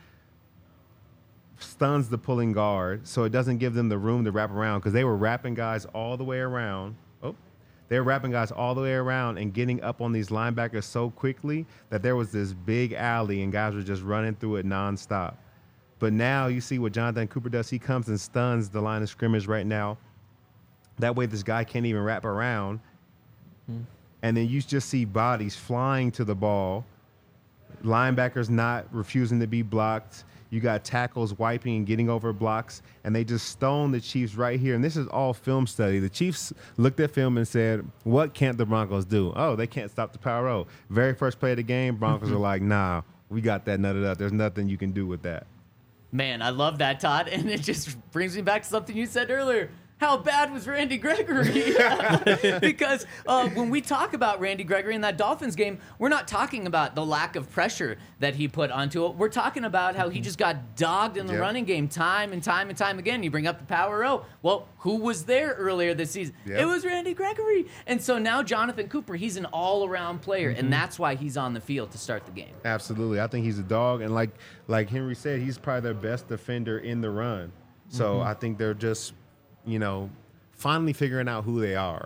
stuns the pulling guard, so it doesn't give them the room to wrap around, because they were wrapping guys all the way around. Oh, they're wrapping guys all the way around and getting up on these linebackers so quickly that there was this big alley and guys were just running through it nonstop. But now you see what Jonathan Cooper does. He comes and stuns the line of scrimmage right now. That way this guy can't even wrap around. Hmm. And then you just see bodies flying to the ball. Linebackers not refusing to be blocked. You got tackles wiping and getting over blocks, and they just stone the Chiefs right here. And this is all film study. The Chiefs looked at film and said, what can't the Broncos do? Oh, they can't stop the Power O. Very first play of the game, Broncos are like, nah, we got that nutted up. There's nothing you can do with that. Man, I love that, Todd. And it just brings me back to something you said earlier. How bad was Randy Gregory? Because uh, when we talk about Randy Gregory in that Dolphins game, we're not talking about the lack of pressure that he put onto it. We're talking about how he just got dogged in the Yep. running game time and time and time again. You bring up the Power O. Well, who was there earlier this season? Yep. It was Randy Gregory. And so now Jonathan Cooper, he's an all-around player, and that's why he's on the field to start the game. Absolutely. I think he's a dog. And like like Henry said, he's probably their best defender in the run. So I think they're just, you know, finally figuring out who they are.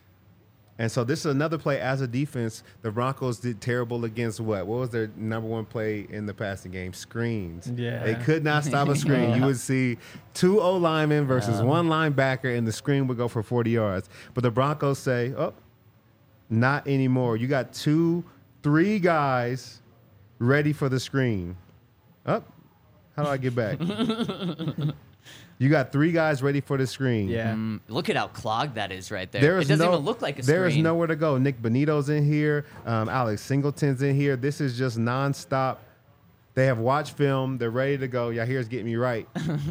And so this is another play as a defense. The Broncos did terrible against what? What was their number one play in the passing game? Screens. Yeah. They could not stop a screen. You would see two O linemen versus one linebacker, and the screen would go for forty yards. But the Broncos say, oh, not anymore. You got two, three guys ready for the screen. Up. Oh, how do I get back? You got three guys ready for the screen. Yeah. Mm, look at how clogged that is right there. There It is doesn't no, even look like a screen. There is nowhere to go. Nick Benito's in here. Um, Alex Singleton's in here. This is just nonstop. They have watched film. They're ready to go. Y'all here's getting me right.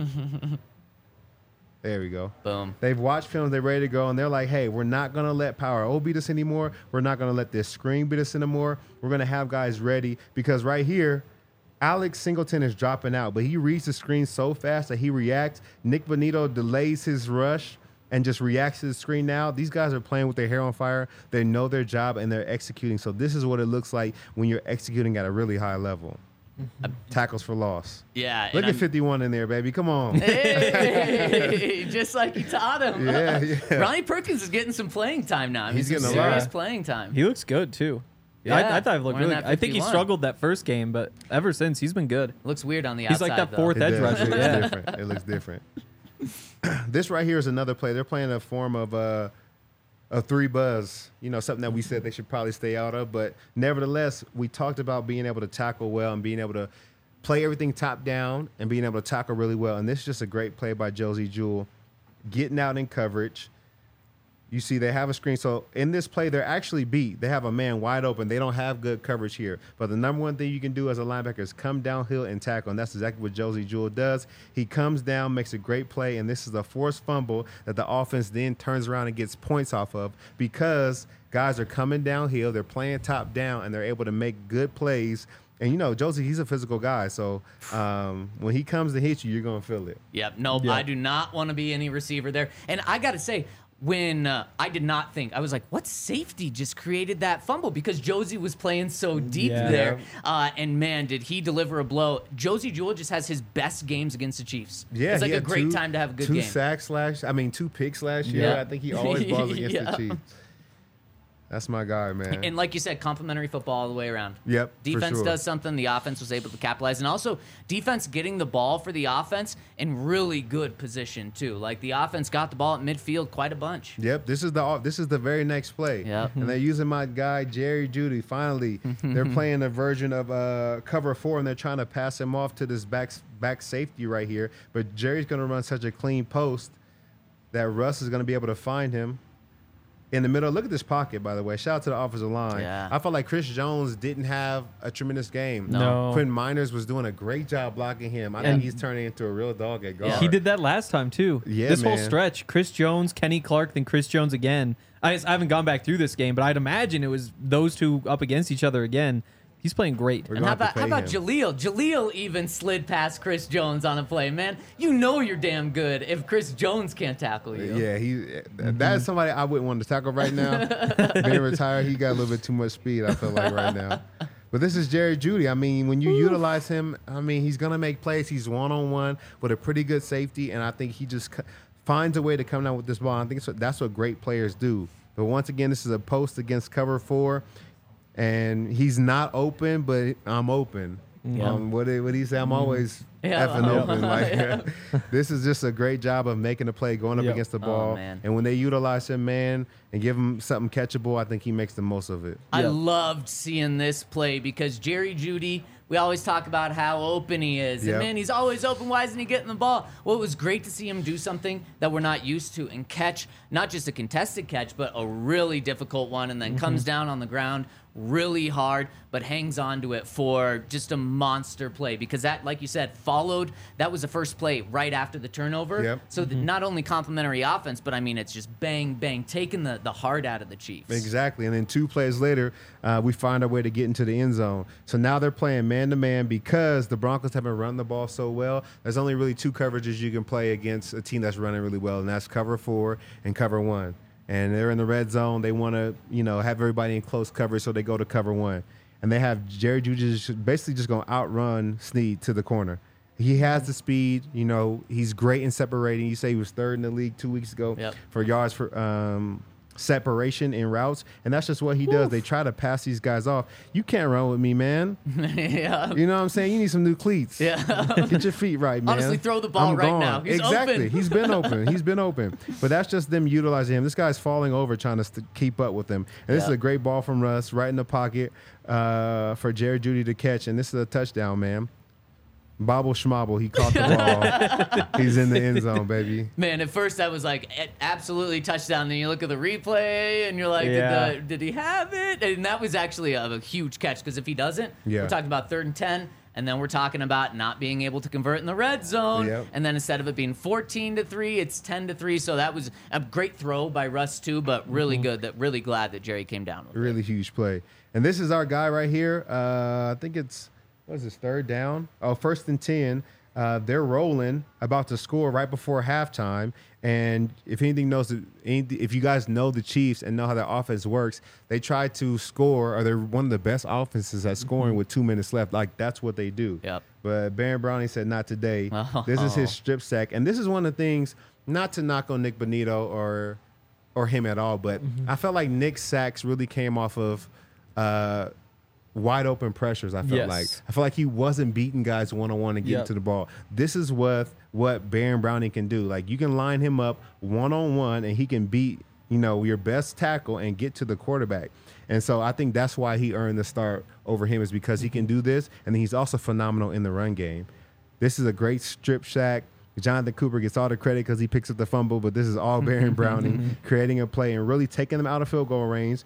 There we go. Boom. They've watched films. They're ready to go, and they're like, "Hey, we're not gonna let Power O beat us anymore. We're not gonna let this screen beat us anymore. We're gonna have guys ready because right here." Alex Singleton is dropping out, but he reads the screen so fast that he reacts. Nick Benito delays his rush and just reacts to the screen now. These guys are playing with their hair on fire. They know their job, and they're executing. So this is what it looks like when you're executing at a really high level. Tackles for loss. Yeah. Look and at I'm- fifty-one in there, baby. Come on. Hey, just like he taught him. Yeah, yeah. Ronnie Perkins is getting some playing time now. He's He's, getting some a lot. serious playing time. He looks good too. Yeah, I, I thought he looked wearing really. that I think he fifty-one. struggled that first game, but ever since he's been good. Looks weird on the He's outside. like that though. fourth It edge does. rusher. It looks Yeah. different. It looks different. This right here is another play. They're playing a form of uh, a three buzz. You know, something that we said they should probably stay out of. But nevertheless, we talked about being able to tackle well and being able to play everything top down and being able to tackle really well. And this is just a great play by Josie Jewell, getting out in coverage. You see they have a screen. So in this play, they're actually beat. They have a man wide open. They don't have good coverage here. But the number one thing you can do as a linebacker is come downhill and tackle. And that's exactly what Josie Jewell does. He comes down, makes a great play, and this is a forced fumble that the offense then turns around and gets points off of because guys are coming downhill. They're playing top down, and they're able to make good plays. And, you know, Josie, he's a physical guy. So um, when he comes to hit you, you're going to feel it. Yep. Nope. Yeah. I do not want to be any receiver there. And I got to say, when uh, I did not think, I was like, what safety just created that fumble? Because Josie was playing so deep Yeah. there. Uh, and man, did he deliver a blow. Josie Jewell just has his best games against the Chiefs. Yeah, it's like he a had great two- time to have a good two game. sacks last. I mean, two picks last year. Yeah. I think he always balls against Yeah. the Chiefs. That's my guy, man. And like you said, complimentary football all the way around. Yep, for Defense sure. does something, the offense was able to capitalize. And also, defense getting the ball for the offense in really good position, too. Like, the offense got the ball at midfield quite a bunch. Yep, this is the this is the very next play. Yep. And they're using my guy Jerry Jeudy. Finally, they're playing a version of uh, cover four, and they're trying to pass him off to this back back safety right here. But Jerry's going to run such a clean post that Russ is going to be able to find him in the middle. Look at this pocket, by the way. Shout out to the offensive line. Yeah. I felt like Chris Jones didn't have a tremendous game. No. Quinn Miners was doing a great job blocking him. I And- think he's turning into a real dog at guard. He did that last time too. Yeah, this whole man. stretch, Chris Jones, Kenny Clark, then Chris Jones again. I, I haven't gone back through this game, but I'd imagine it was those two up against each other again. He's playing great. We're And gonna how have to about how pay about him. Jaleel? Jaleel even slid past Chris Jones on a play, man. You know you're damn good if Chris Jones can't tackle you. Yeah, he that is somebody I wouldn't want to tackle right now. Being retired, he got a little bit too much speed, I feel like, right now. But this is Jerry Jeudy. I mean, when you utilize him, I mean, he's going to make plays. He's one-on-one with a pretty good safety, and I think he just c- finds a way to come down with this ball. I think it's what, that's what great players do. But once again, this is a post against cover four, and he's not open, but I'm open. Yeah. Um, what did what did he say? I'm always Yeah. effing Yeah. open. Like this is just a great job of making a play, going up Yep. against the Oh, ball. man. And when they utilize him, man, and give him something catchable, I think he makes the most of it. I Yeah. loved seeing this play because Jerry Jeudy, we always talk about how open he is. Yep. And man, he's always open. Why isn't he getting the ball? Well, it was great to see him do something that we're not used to and catch not just a contested catch, but a really difficult one, and then Mm-hmm. comes down on the ground really hard, but hangs on to it for just a monster play because that, like you said, followed. That was the first play right after the turnover. Yep. So that not only complimentary offense, but I mean, it's just bang, bang, taking the, the heart out of the Chiefs. Exactly. And then two plays later, uh, we find our way to get into the end zone. So now they're playing man-to-man because the Broncos have been running the ball so well. There's only really two coverages you can play against a team that's running really well, and that's cover four and cover one. And they're in the red zone. They want to, you know, have everybody in close coverage, so they go to cover one. And they have Jerry Jeudy just basically just going to outrun Snead to the corner. He has the speed. You know, he's great in separating. You say he was third in the league two weeks ago Yep. for yards for um, separation in routes. And that's just what he does. They try to pass these guys off. You can't run with me, man. yeah. You know what I'm saying? You need some new cleats. Yeah. Get your feet right, man. Honestly, throw the ball I'm right gone. now. He's exactly. open. He's been open. He's been open. But that's just them utilizing him. This guy's falling over trying to st- keep up with him. And this Yeah. is a great ball from Russ right in the pocket uh, for Jerry Jeudy to catch. And this is a touchdown, man. Bobble schmobble. He caught the ball. He's in the end zone, baby. Man, at first I was like, "A- absolutely touchdown. Then you look at the replay and you're like, Yeah. did, the, did he have it? And that was actually a, a huge catch because if he doesn't, Yeah. we're talking about third and ten. And then we're talking about not being able to convert in the red zone. Yep. And then instead of it being fourteen to three, it's ten to three. So that was a great throw by Russ, too, but really good. That Really glad that Jerry came down with it. Really huge play. And this is our guy right here. Uh, I think it's, what is this, third down? Oh, first and ten. Uh, they're rolling, about to score right before halftime. And if anything knows, the- any- if you guys know the Chiefs and know how their offense works, they try to score, or they're one of the best offenses at scoring with two minutes left. Like, that's what they do. Yep. But Baron Browning said, not today. Oh. This is his strip sack. And this is one of the things, not to knock on Nick Bonito or or him at all, but I felt like Nick's sacks really came off of uh, wide open pressures. I felt Yes. like I felt like he wasn't beating guys one on one and getting Yep. to the ball. This is what what Baron Browning can do. Like, you can line him up one on one and he can beat, you know, your best tackle and get to the quarterback. And so I think that's why he earned the start over him, is because he can do this, and then he's also phenomenal in the run game. This is a great strip sack. Jonathan Cooper gets all the credit because he picks up the fumble, but this is all Baron Browning creating a play and really taking them out of field goal range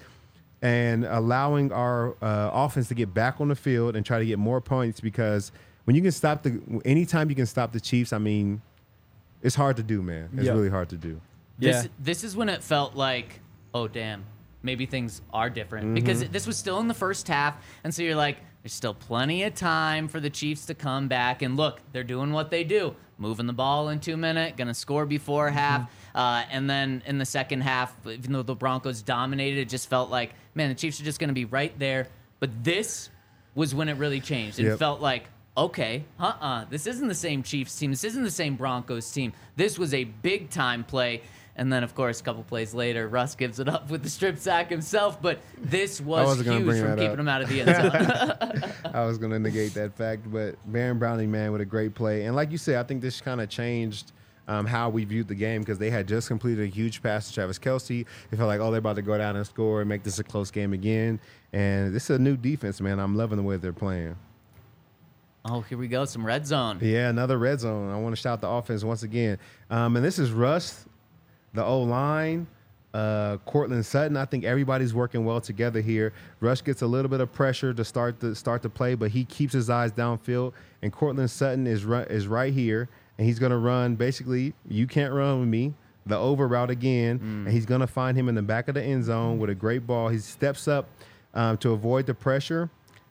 and allowing our uh, offense to get back on the field and try to get more points, because when you can stop the anytime you can stop the Chiefs, I mean, it's hard to do, man. It's Yep. really hard to do. This, Yeah. this is when it felt like, oh, damn, maybe things are different. Mm-hmm. Because this was still in the first half. And so you're like, There's still plenty of time for the Chiefs to come back. And look, they're doing what they do. Moving the ball in two minutes, going to score before half. Uh, and then in the second half, even though the Broncos dominated, it just felt like, man, the Chiefs are just going to be right there. But this was when it really changed. It Yep. felt like, okay, uh-uh, this isn't the same Chiefs team. This isn't the same Broncos team. This was a big-time play. And then, of course, a couple plays later, Russ gives it up with the strip sack himself. But this was wasn't gonna huge bring from that keeping up. him out of the end zone. I was going to negate that fact, but Baron Browning, man, with a great play. And like you said, I think this kind of changed um, how we viewed the game because they had just completed a huge pass to Travis Kelce. It felt like, oh, they're about to go down and score and make this a close game again. And this is a new defense, man. I'm loving the way they're playing. Oh, here we go. Some red zone. Yeah, another red zone. I want to shout the offense once again. Um, and this is Russ, the O-line, uh, Cortland Sutton. I think everybody's working well together here. Russ gets a little bit of pressure to start the start the play, but he keeps his eyes downfield. And Cortland Sutton is run, is right here, and he's going to run basically, you can't run with me, the over route again, mm. and he's going to find him in the back of the end zone with a great ball. He steps up um, to avoid the pressure.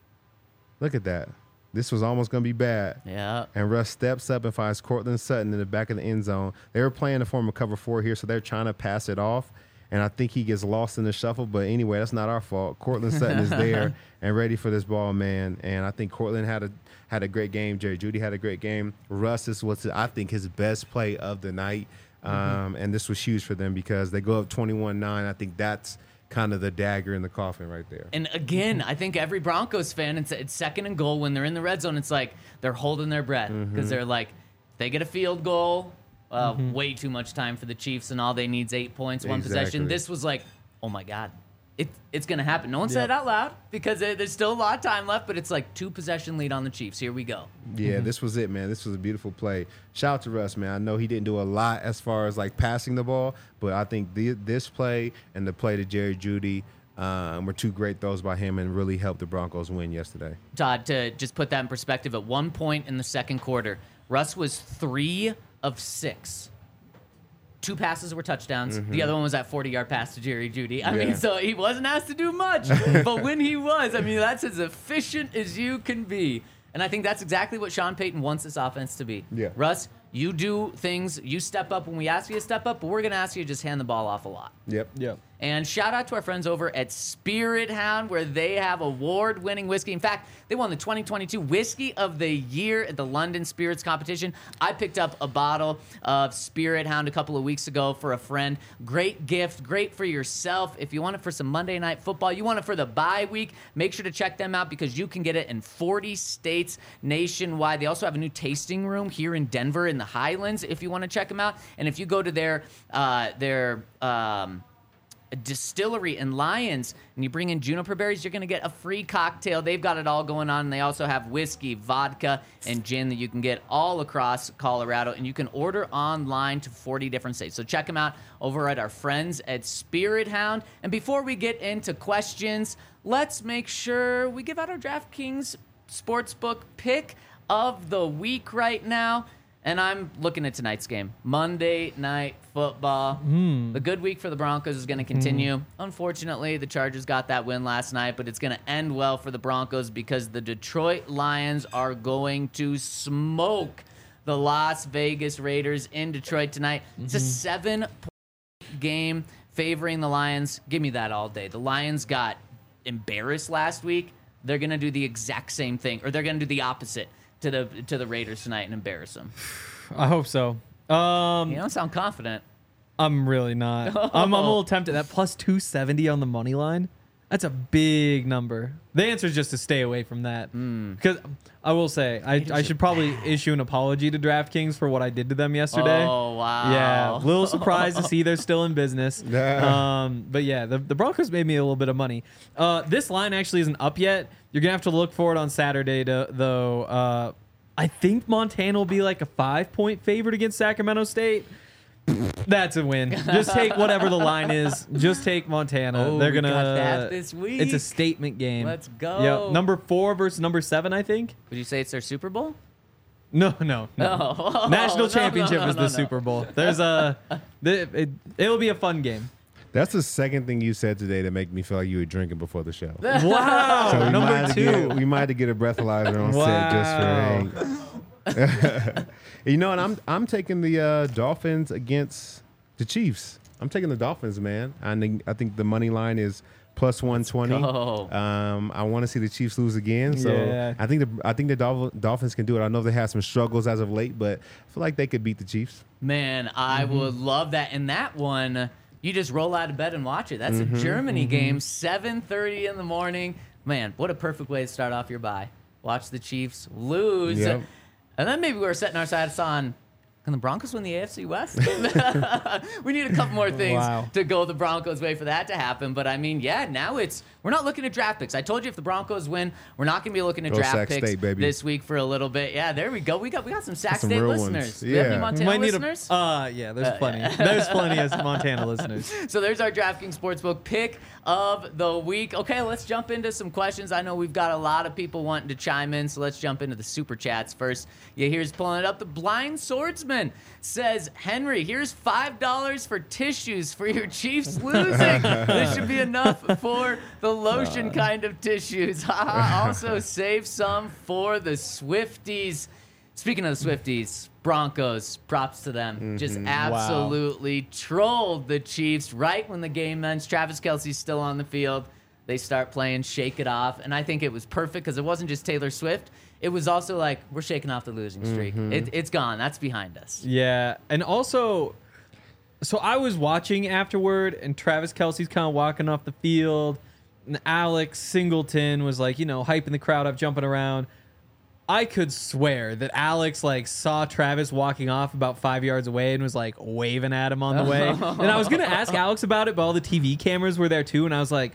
Look at that. This was almost going to be bad. Yeah. And Russ steps up and finds Cortland Sutton in the back of the end zone. They were playing the form of cover four here, so they're trying to pass it off. And I think he gets lost in the shuffle. But anyway, that's not our fault. Cortland Sutton is there and ready for this ball, man. And I think Cortland had a had a great game. Jerry Jeudy had a great game. Russ, this was, I think, his best play of the night. Um, mm-hmm. And this was huge for them because they go up twenty-one nine. I think that's kind of the dagger in the coffin right there. And again, I think every Broncos fan, it's, it's second and goal when they're in the red zone. It's like they're holding their breath because mm-hmm. they're like, they get a field goal, uh, mm-hmm. way too much time for the Chiefs, and all they need is eight points, one Exactly. possession. This was like, oh my God, it, it's going to happen. No one said Yep. it out loud because it, there's still a lot of time left, but it's like two possession lead on the Chiefs. Here we go. Yeah, Mm-hmm. this was it, man. This was a beautiful play. Shout out to Russ, man. I know he didn't do a lot as far as like passing the ball, but I think the, this play and the play to Jerry Jeudy um, were two great throws by him and really helped the Broncos win yesterday. Todd, to just put that in perspective, at one point in the second quarter, Russ was three of six. Two passes were touchdowns. Mm-hmm. The other one was that forty-yard pass to Jerry Jeudy. I Yeah. mean, so he wasn't asked to do much. But when he was, I mean, that's as efficient as you can be. And I think that's exactly what Sean Payton wants this offense to be. Yeah. Russ, you do things, you step up when we ask you to step up, but we're going to ask you to just hand the ball off a lot. Yep. Yep. And shout out to our friends over at Spirit Hound, where they have award-winning whiskey. In fact, they won the twenty twenty-two Whiskey of the Year at the London Spirits Competition. I picked up a bottle of Spirit Hound a couple of weeks ago for a friend. Great gift, great for yourself. If you want it for some Monday Night Football, you want it for the bye week, make sure to check them out because you can get it in forty states nationwide. They also have a new tasting room here in Denver in the Highlands if you want to check them out. And if you go to their, uh, their, um, a distillery in Lyons, and you bring in juniper berries, you're going to get a free cocktail. They've got it all going on, and they also have whiskey, vodka, and gin that you can get all across Colorado, and you can order online to forty different states. So check them out over at our friends at Spirit Hound. And before we get into questions, let's make sure we give out our DraftKings Sportsbook pick of the week right now. And I'm looking at tonight's game, Monday Night Football. Mm. The good week for the Broncos is going to continue. Mm. Unfortunately, the Chargers got that win last night, but it's going to end well for the Broncos because the Detroit Lions are going to smoke the Las Vegas Raiders in Detroit tonight. Mm-hmm. It's a seven-point game favoring the Lions. Give me that all day. The Lions got embarrassed last week. They're going to do the exact same thing, or they're going to do the opposite to the to the Raiders tonight and embarrass them. I hope so. Um, You don't sound confident. I'm really not. I'm, I'm a little tempted. That plus two seventy on the money line, that's a big number. The answer is just to stay away from that. Mm. Because I will say, I, I should probably bad. issue an apology to DraftKings for what I did to them yesterday. Oh, wow. Yeah, a little surprised to see they're still in business. Yeah. Um, but yeah, the, the Broncos made me a little bit of money. Uh, this line actually isn't up yet. You're going to have to look for it on Saturday, to, though. Uh, I think Montana will be like a five-point favorite against Sacramento State. That's a win. Just take whatever the line is. Just take Montana. Oh, They're we gonna. got that this week. It's a statement game. Let's go. Yep. Number four versus number seven, I think. Would you say it's their Super Bowl? No, no, no. Oh. National No, championship no, no, is no, the no. Super Bowl. There's a. The, it, it'll be a fun game. That's the second thing you said today to make me feel like you were drinking before the show. Wow. So we might Number have to two. get, we might have to get a breathalyzer on set just for Hank. You know, and I'm I'm taking the uh, Dolphins against the Chiefs. I'm taking the Dolphins, man. I think I think the money line is plus one twenty. go. Um, I want to see the Chiefs lose again. So Yeah. I think the I think the Dolph- Dolphins can do it. I know they had some struggles as of late, but I feel like they could beat the Chiefs. Man, I Mm-hmm. would love that. And that one, you just roll out of bed and watch it. That's Mm-hmm. a Germany game, seven thirty in the morning. Man, what a perfect way to start off your bye. Watch the Chiefs lose. Yep. And then maybe we're setting our sights on, can the Broncos win the A F C West? We need a couple more things Wow. to go the Broncos' way for that to happen. But I mean, yeah, now it's we're not looking at draft picks. I told you if the Broncos win, we're not going to be looking at Go draft Sac picks State, baby. this week for a little bit. Yeah, there we go. We got we got some Sac Some State real ones. listeners. Do we have any Yeah. Montana Might need listeners? a, uh, yeah, there's plenty. There's plenty of Montana listeners. So there's our DraftKings Sportsbook pick of the week. Okay, let's jump into some questions. I know we've got a lot of people wanting to chime in, so let's jump into the super chats first. Yeah, here's pulling it up. The Blind Swordsman says, Henry, here's five dollars for tissues for your Chiefs losing. This should be enough for the lotion kind of tissues. Also, save some for the Swifties. Speaking of the Swifties, Broncos, props to them. Just absolutely trolled the Chiefs right when the game ends. Travis Kelce's still on the field. They start playing Shake It Off. And I think it was perfect because it wasn't just Taylor Swift. It was also like, we're shaking off the losing streak. It, it's gone. That's behind us. Yeah, and also, so I was watching afterward, and Travis Kelce's kind of walking off the field, and Alex Singleton was like, you know, hyping the crowd up, jumping around. I could swear that Alex like saw Travis walking off about five yards away and was like waving at him on the way. And I was gonna ask Alex about it, but all the T V cameras were there too, and I was like,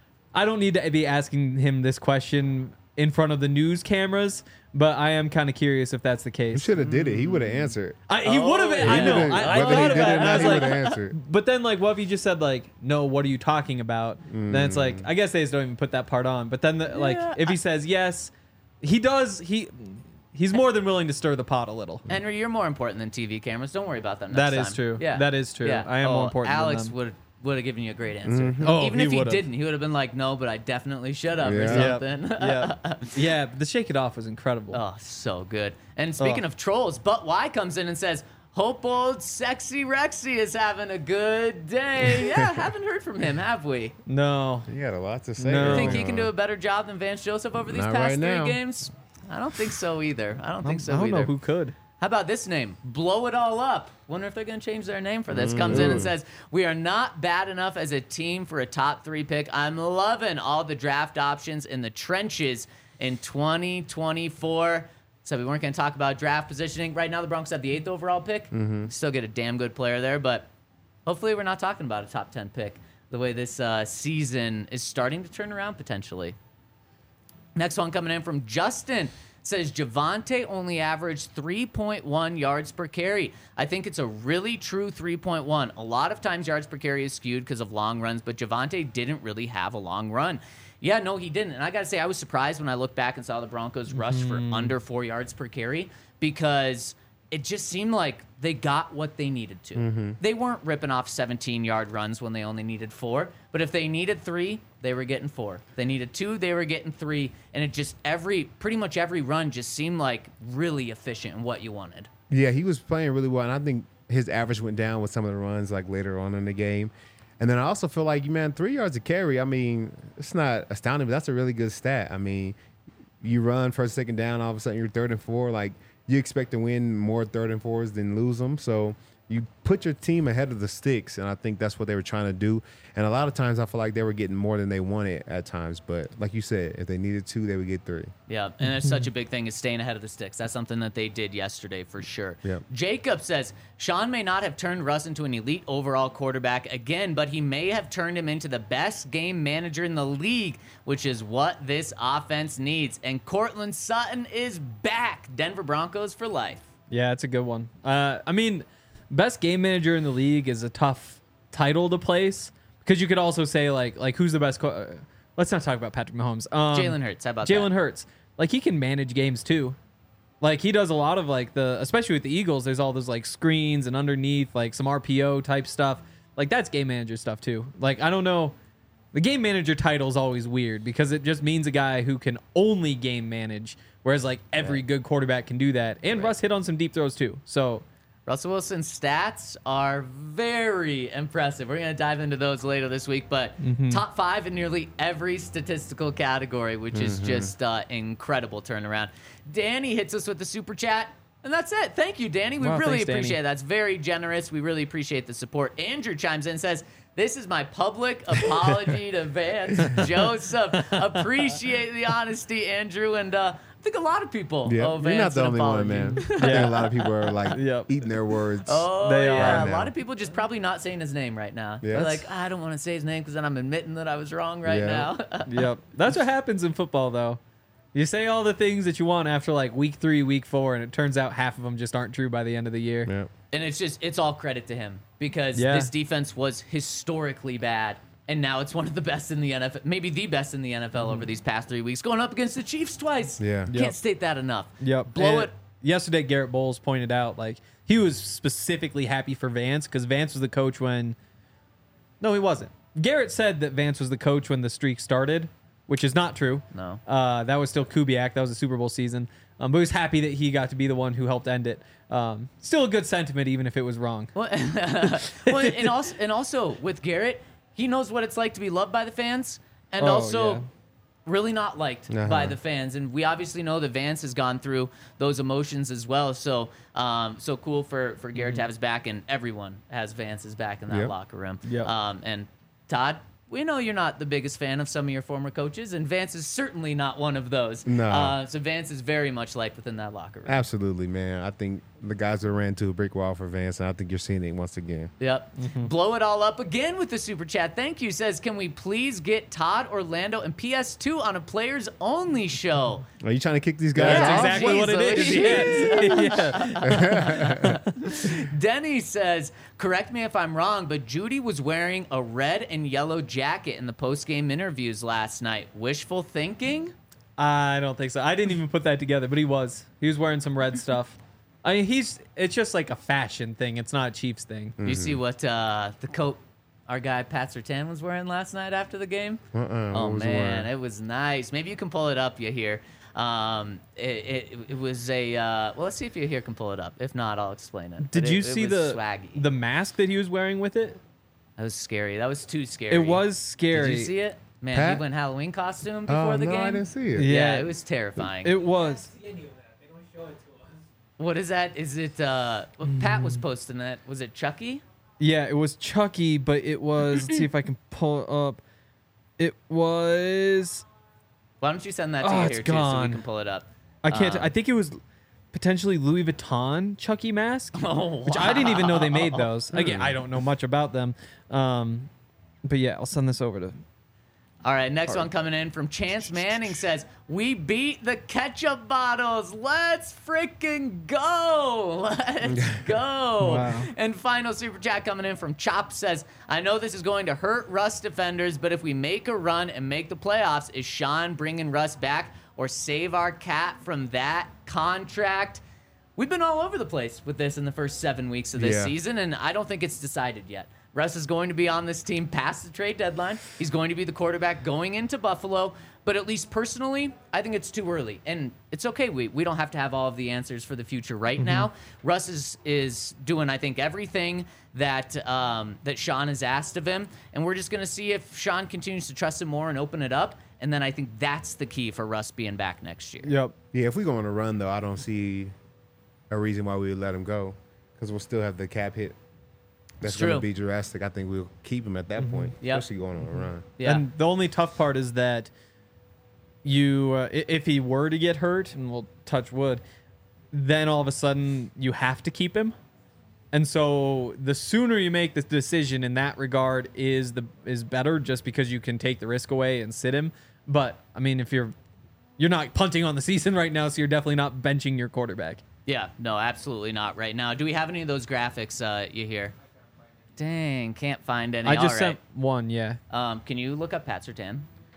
I don't need to be asking him this question in front of the news cameras, but I am kind of curious if that's the You case. should have did it. He would have answered. I, he would have. I He know. would've- I, I whether he thought did about it it, or and I not, was he like, would have answered. but then like, what if he just said like, no, what are you talking about? Then it's like, I guess they just don't even put that part on. But then the, like, Yeah, if he says yes, he does. He he's more than willing to stir the pot a little. Henry, you're more important than T V cameras. Don't worry about them next That time. is true. Yeah. That is true. Yeah. I am oh, more important than Alex them. would would have given you a great answer. Oh, Even he if he would've. didn't, he would have been like, no, but I definitely should have or Yeah. something. yeah, yeah. The Shake It Off was incredible. Oh, so good. And speaking Oh. of trolls, But Y comes in and says, hope old sexy Rexy is having a good day. Yeah, haven't heard from him, have we? No, He had a lot to say. No. You think early he can on. do a better job than Vance Joseph over these Not past right three now. games? I don't think so either. I don't think so I don't either. know who could. How about this name? Blow It All Up. Wonder if they're going to change their name for this. Comes in and says, we are not bad enough as a team for a top three pick. I'm loving all the draft options in the trenches in twenty twenty-four. So we weren't going to talk about draft positioning. Right now, the Broncos have the eighth overall pick. Still get a damn good player there, but hopefully we're not talking about a top ten pick the way this uh, season is starting to turn around potentially. Next one coming in from Justin. Says Javonte only averaged three point one yards per carry. I think it's a really true three point one. A lot of times yards per carry is skewed because of long runs, but Javonte didn't really have a long run. Yeah, no, he didn't. And I got to say, I was surprised when I looked back and saw the Broncos rush for under four yards per carry because it just seemed like they got what they needed to. They weren't ripping off seventeen-yard runs when they only needed four, but if they needed three, they were getting four. If they needed two, they were getting three, and it just every pretty much every run just seemed like really efficient in what you wanted. Yeah, he was playing really well, and I think his average went down with some of the runs like later on in the game. And then I also feel like, man, three yards of carry, I mean, it's not astounding, but that's a really good stat. I mean, you run first, second down, all of a sudden you're third and four. Like, you expect to win more third and fours than lose them. So you put your team ahead of the sticks, and I think that's what they were trying to do. And a lot of times I feel like they were getting more than they wanted at times. But like you said, if they needed two, they would get three. Yeah, and it's such a big thing is staying ahead of the sticks. That's something that they did yesterday for sure. Yep. Jacob says, Sean may not have turned Russ into an elite overall quarterback again, but he may have turned him into the best game manager in the league, which is what this offense needs. And Cortland Sutton is back. Denver Broncos for life. Yeah, it's a good one. Uh, I mean, best game manager in the league is a tough title to place because you could also say like like who's the best. Co- uh, let's not talk about Patrick Mahomes. Um, Jalen Hurts. How about Jalen that? Hurts. Like he can manage games too. Like he does a lot of like the, especially with the Eagles. There's all those like screens and underneath like some R P O type stuff. like that's game manager stuff too. Like I don't know, the game manager title is always weird because it just means a guy who can only game manage, whereas like every good quarterback can do that. And Right. Russ hit on some deep throws too. So Russell Wilson's stats are very impressive. We're going to dive into those later this week, but top five in nearly every statistical category, which is just uh, incredible turnaround. Danny hits us with the super chat, and that's it. Thank you, Danny. We Wow, really thanks, Danny. appreciate it. That's very generous. We really appreciate the support. Andrew chimes in and says, this is my public apology to Vance Joseph. Appreciate the honesty, Andrew, and uh, I think a lot of people Yeah, owe you're Vance not the an only apology. one, man. I think a lot of people are like Yep. eating their words. Oh, They yeah. are A lot now. of people just probably not saying his name right now. They're Yes. like, I don't want to say his name because then I'm admitting that I was wrong right Yeah. now. yep, that's what happens in football though. You say all the things that you want after like week three, week four, and it turns out half of them just aren't true by the end of the year. Yeah. And it's just, it's all credit to him because Yeah. this defense was historically bad. And now it's one of the best in the N F L, maybe the best in the N F L over these past three weeks, going up against the Chiefs twice. Yeah. Can't Yep. state that enough. Yep. Blow And it. Yesterday, Garrett Bowles pointed out like he was specifically happy for Vance because Vance was the coach when. No, he wasn't. Garrett said that Vance was the coach when the streak started, which is not true. No. Uh, that was still Kubiak. That was a Super Bowl season. Um, but he was happy that he got to be the one who helped end it. Um, still a good sentiment, even if it was wrong. Well, well, and also, and also with Garrett, he knows what it's like to be loved by the fans, and Oh, also yeah. really not liked Uh-huh. by the fans. And we obviously know that Vance has gone through those emotions as well. So, um, so cool for for Garrett to have his back, and everyone has Vance's back in that Yep. locker room. Yep. Um, and Todd, we know you're not the biggest fan of some of your former coaches, and Vance is certainly not one of those. No. Uh, so Vance is very much liked within that locker room. Absolutely, man. I think the guys that ran to a brick wall for Vance, and I think you're seeing it once again. Yep. Blow it all up again with the super chat. Thank you. Says, can we please get Todd, Orlando, and P S two on a players only show? Are you trying to kick these guys Yeah, off? That's exactly geez, what it is. Alicia. Yeah. Denny says, correct me if I'm wrong, but Judy was wearing a red and yellow jacket in the post-game interviews last night. Wishful thinking? I don't think so. I didn't even put that together, but he was. He was wearing some red stuff. I mean, he's. It's just like a fashion thing. It's not a Chiefs thing. You see what uh, the coat our guy Pat Surtain was wearing last night after the game? Uh-uh, Oh what was he man, wearing? it was nice. Maybe you can pull it up. You hear? Um, it, it it was a. Uh, well, let's see if you here can pull it up. If not, I'll explain it. Did But you it, it see was the swaggy? the mask that he was wearing with it? That was scary. That was too scary. It was scary. Did you see it? Man, Pat? he went Halloween costume before Oh, the no, game. I didn't see it. Yeah, Yeah. it was terrifying. It was. what is that? Is it? Uh, well, Pat was posting that. Was it Chucky? Yeah, it was Chucky, but it was. Let's see if I can pull it up. It was. Why don't you send that to Oh, you it's here too, so we gone. can pull it up? I can't. Um, I think it was potentially Louis Vuitton Chucky mask, Oh, which I didn't even know they made those. Hmm. Again, I don't know much about them. Um, but yeah, I'll send this over to. All right, next one coming in from Chance Manning says, we beat the ketchup bottles. Let's freaking go. Let's go. Wow. And final super chat coming in from Chop says, I know this is going to hurt Russ defenders, but if we make a run and make the playoffs, is Sean bringing Russ back or save our cat from that contract? We've been all over the place with this in the first seven weeks of this Yeah. season, and I don't think it's decided yet. Russ is going to be on this team past the trade deadline. He's going to be the quarterback going into Buffalo. But at least personally, I think it's too early. And it's okay. We, we don't have to have all of the answers for the future right now. Russ is, is doing, I think, everything that um, that Sean has asked of him. And we're just going to see if Sean continues to trust him more and open it up. And then I think that's the key for Russ being back next year. Yep. Yeah, if we go on a run, though, I don't see a reason why we would let him go because we'll still have the cap hit. That's It's going to true. be drastic. I think we'll keep him at that point, Yep. especially going on a run. Yeah. And the only tough part is that you, uh, i- if he were to get hurt, and we'll touch wood, then all of a sudden you have to keep him. And so the sooner you make the decision in that regard is the is better, just because you can take the risk away and sit him. But I mean, if you're you're not punting on the season right now, so you're definitely not benching your quarterback. Yeah, no, absolutely not right now. Do we have any of those graphics uh, you hear? Dang, can't find any. I just All sent right. one, yeah. Um, can you look up Pat Surtain?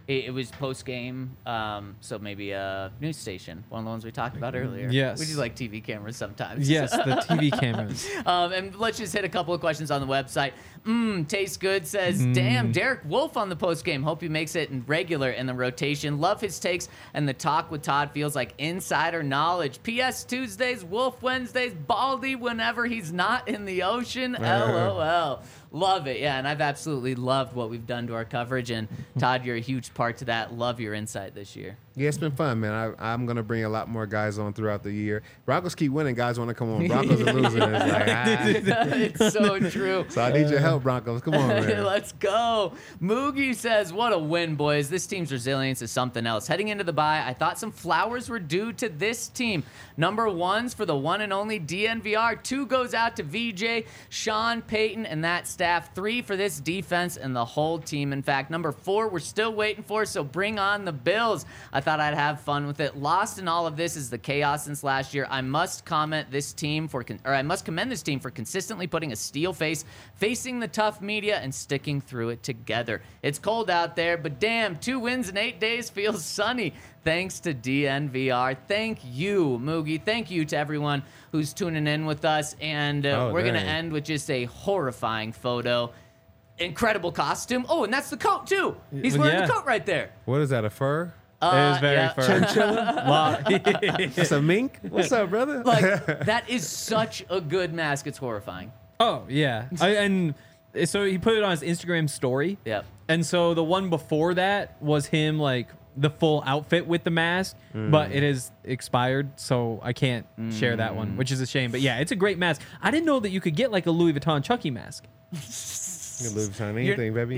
It, it was post game, um, so maybe a news station, one of the ones we talked about earlier. Yes. We do like T V cameras sometimes. Yes, the T V cameras. Um, and let's just hit a couple of questions on the website. Mmm, Tastes Good says, damn, Derek Wolf on the post game. Hope he makes it in regular in the rotation. Love his takes, and the talk with Todd feels like insider knowledge. P S Tuesdays, Wolf Wednesdays, Baldy whenever he's not in the ocean. LOL. Love it. Yeah, and I've absolutely loved what we've done to our coverage. And Todd, you're a huge part to that. Love your insight this year. Yeah, it's been fun, man. I, I'm going to bring a lot more guys on throughout the year. Broncos keep winning. Guys want to come on. Broncos are losing. It's like, ah. It's so true. So I need your help, Broncos. Come on, man. Let's go. Moogie says, what a win, boys. This team's resilience is something else. Heading into the bye, I thought some flowers were due to this team. Number one's for the one and only D N V R. Two goes out to V J, Sean Payton, and that staff. Three for this defense and the whole team. In fact, number four, we're still waiting for, so bring on the Bills. I thought I'd have fun with it. Lost in all of this is the chaos since last year. I must comment this team for, con- or I must commend this team for consistently putting a steel face, facing the tough media, and sticking through it together. It's cold out there, but damn, two wins in eight days feels sunny. Thanks to D N V R. Thank you, Moogie. Thank you to everyone who's tuning in with us. And uh, Oh, we're going to dang. end with just a horrifying photo. Incredible costume. Oh, and that's the coat, too. He's wearing Yeah. the coat right there. What is that, a fur? Uh, it is very yeah. fur. Wow. That's a mink? What's up, brother? Like, that is such a good mask. It's horrifying. Oh yeah, I, and so he put it on his Instagram story. Yep. And so the one before that was him like the full outfit with the mask, but it is expired, so I can't share that one, which is a shame. But yeah, it's a great mask. I didn't know that you could get like a Louis Vuitton Chucky mask. You can Louis Vuitton anything, baby.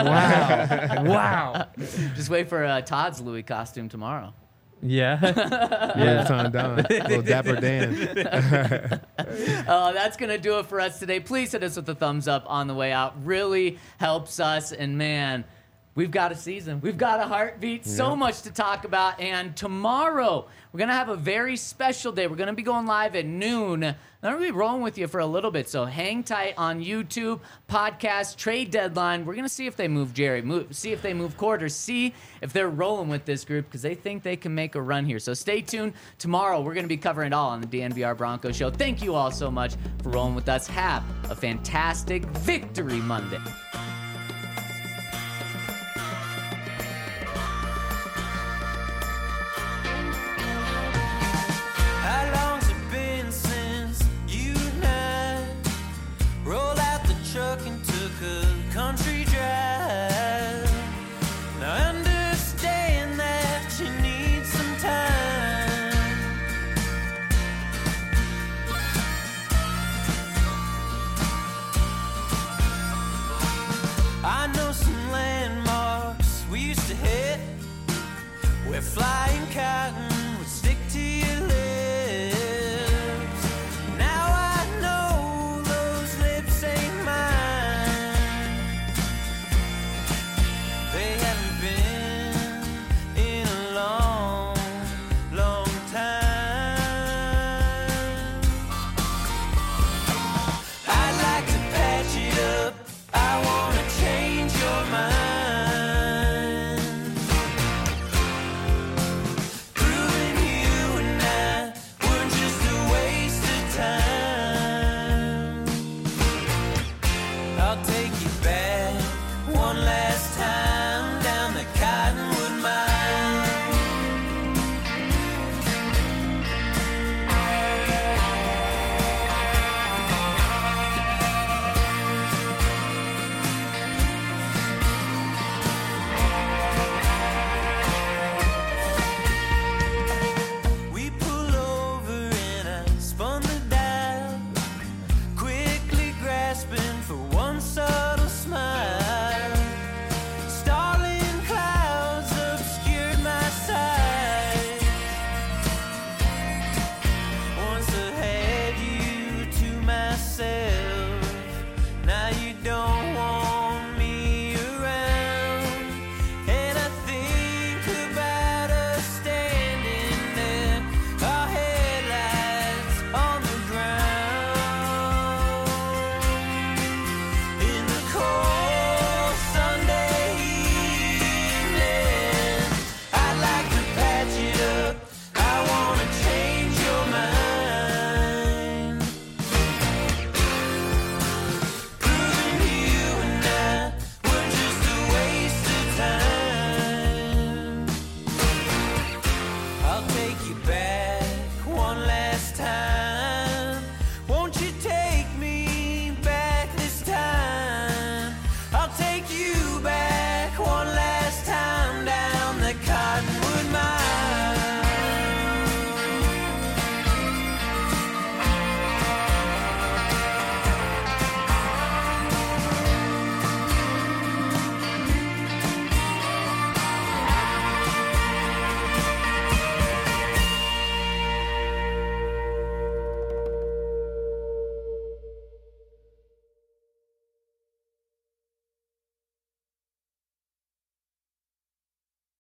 Yeah. Wow. Wow. Just wait for uh, Todd's Louis costume tomorrow. Yeah. Louis Vuitton Don. Little Dapper Dan. Uh, that's going to do it for us today. Please hit us with a thumbs up on the way out. Really helps us. And man, we've got a season. We've got a heartbeat. So Yeah. much to talk about. And tomorrow, we're going to have a very special day. We're going to be going live at noon. I'm going to be rolling with you for a little bit. So hang tight on YouTube, podcast, trade deadline. We're going to see if they move Jerry, move, see if they move Quarters, see if they're rolling with this group because they think they can make a run here. So stay tuned. Tomorrow, we're going to be covering it all on the D N V R Broncos Show. Thank you all so much for rolling with us. Have a fantastic Victory Monday.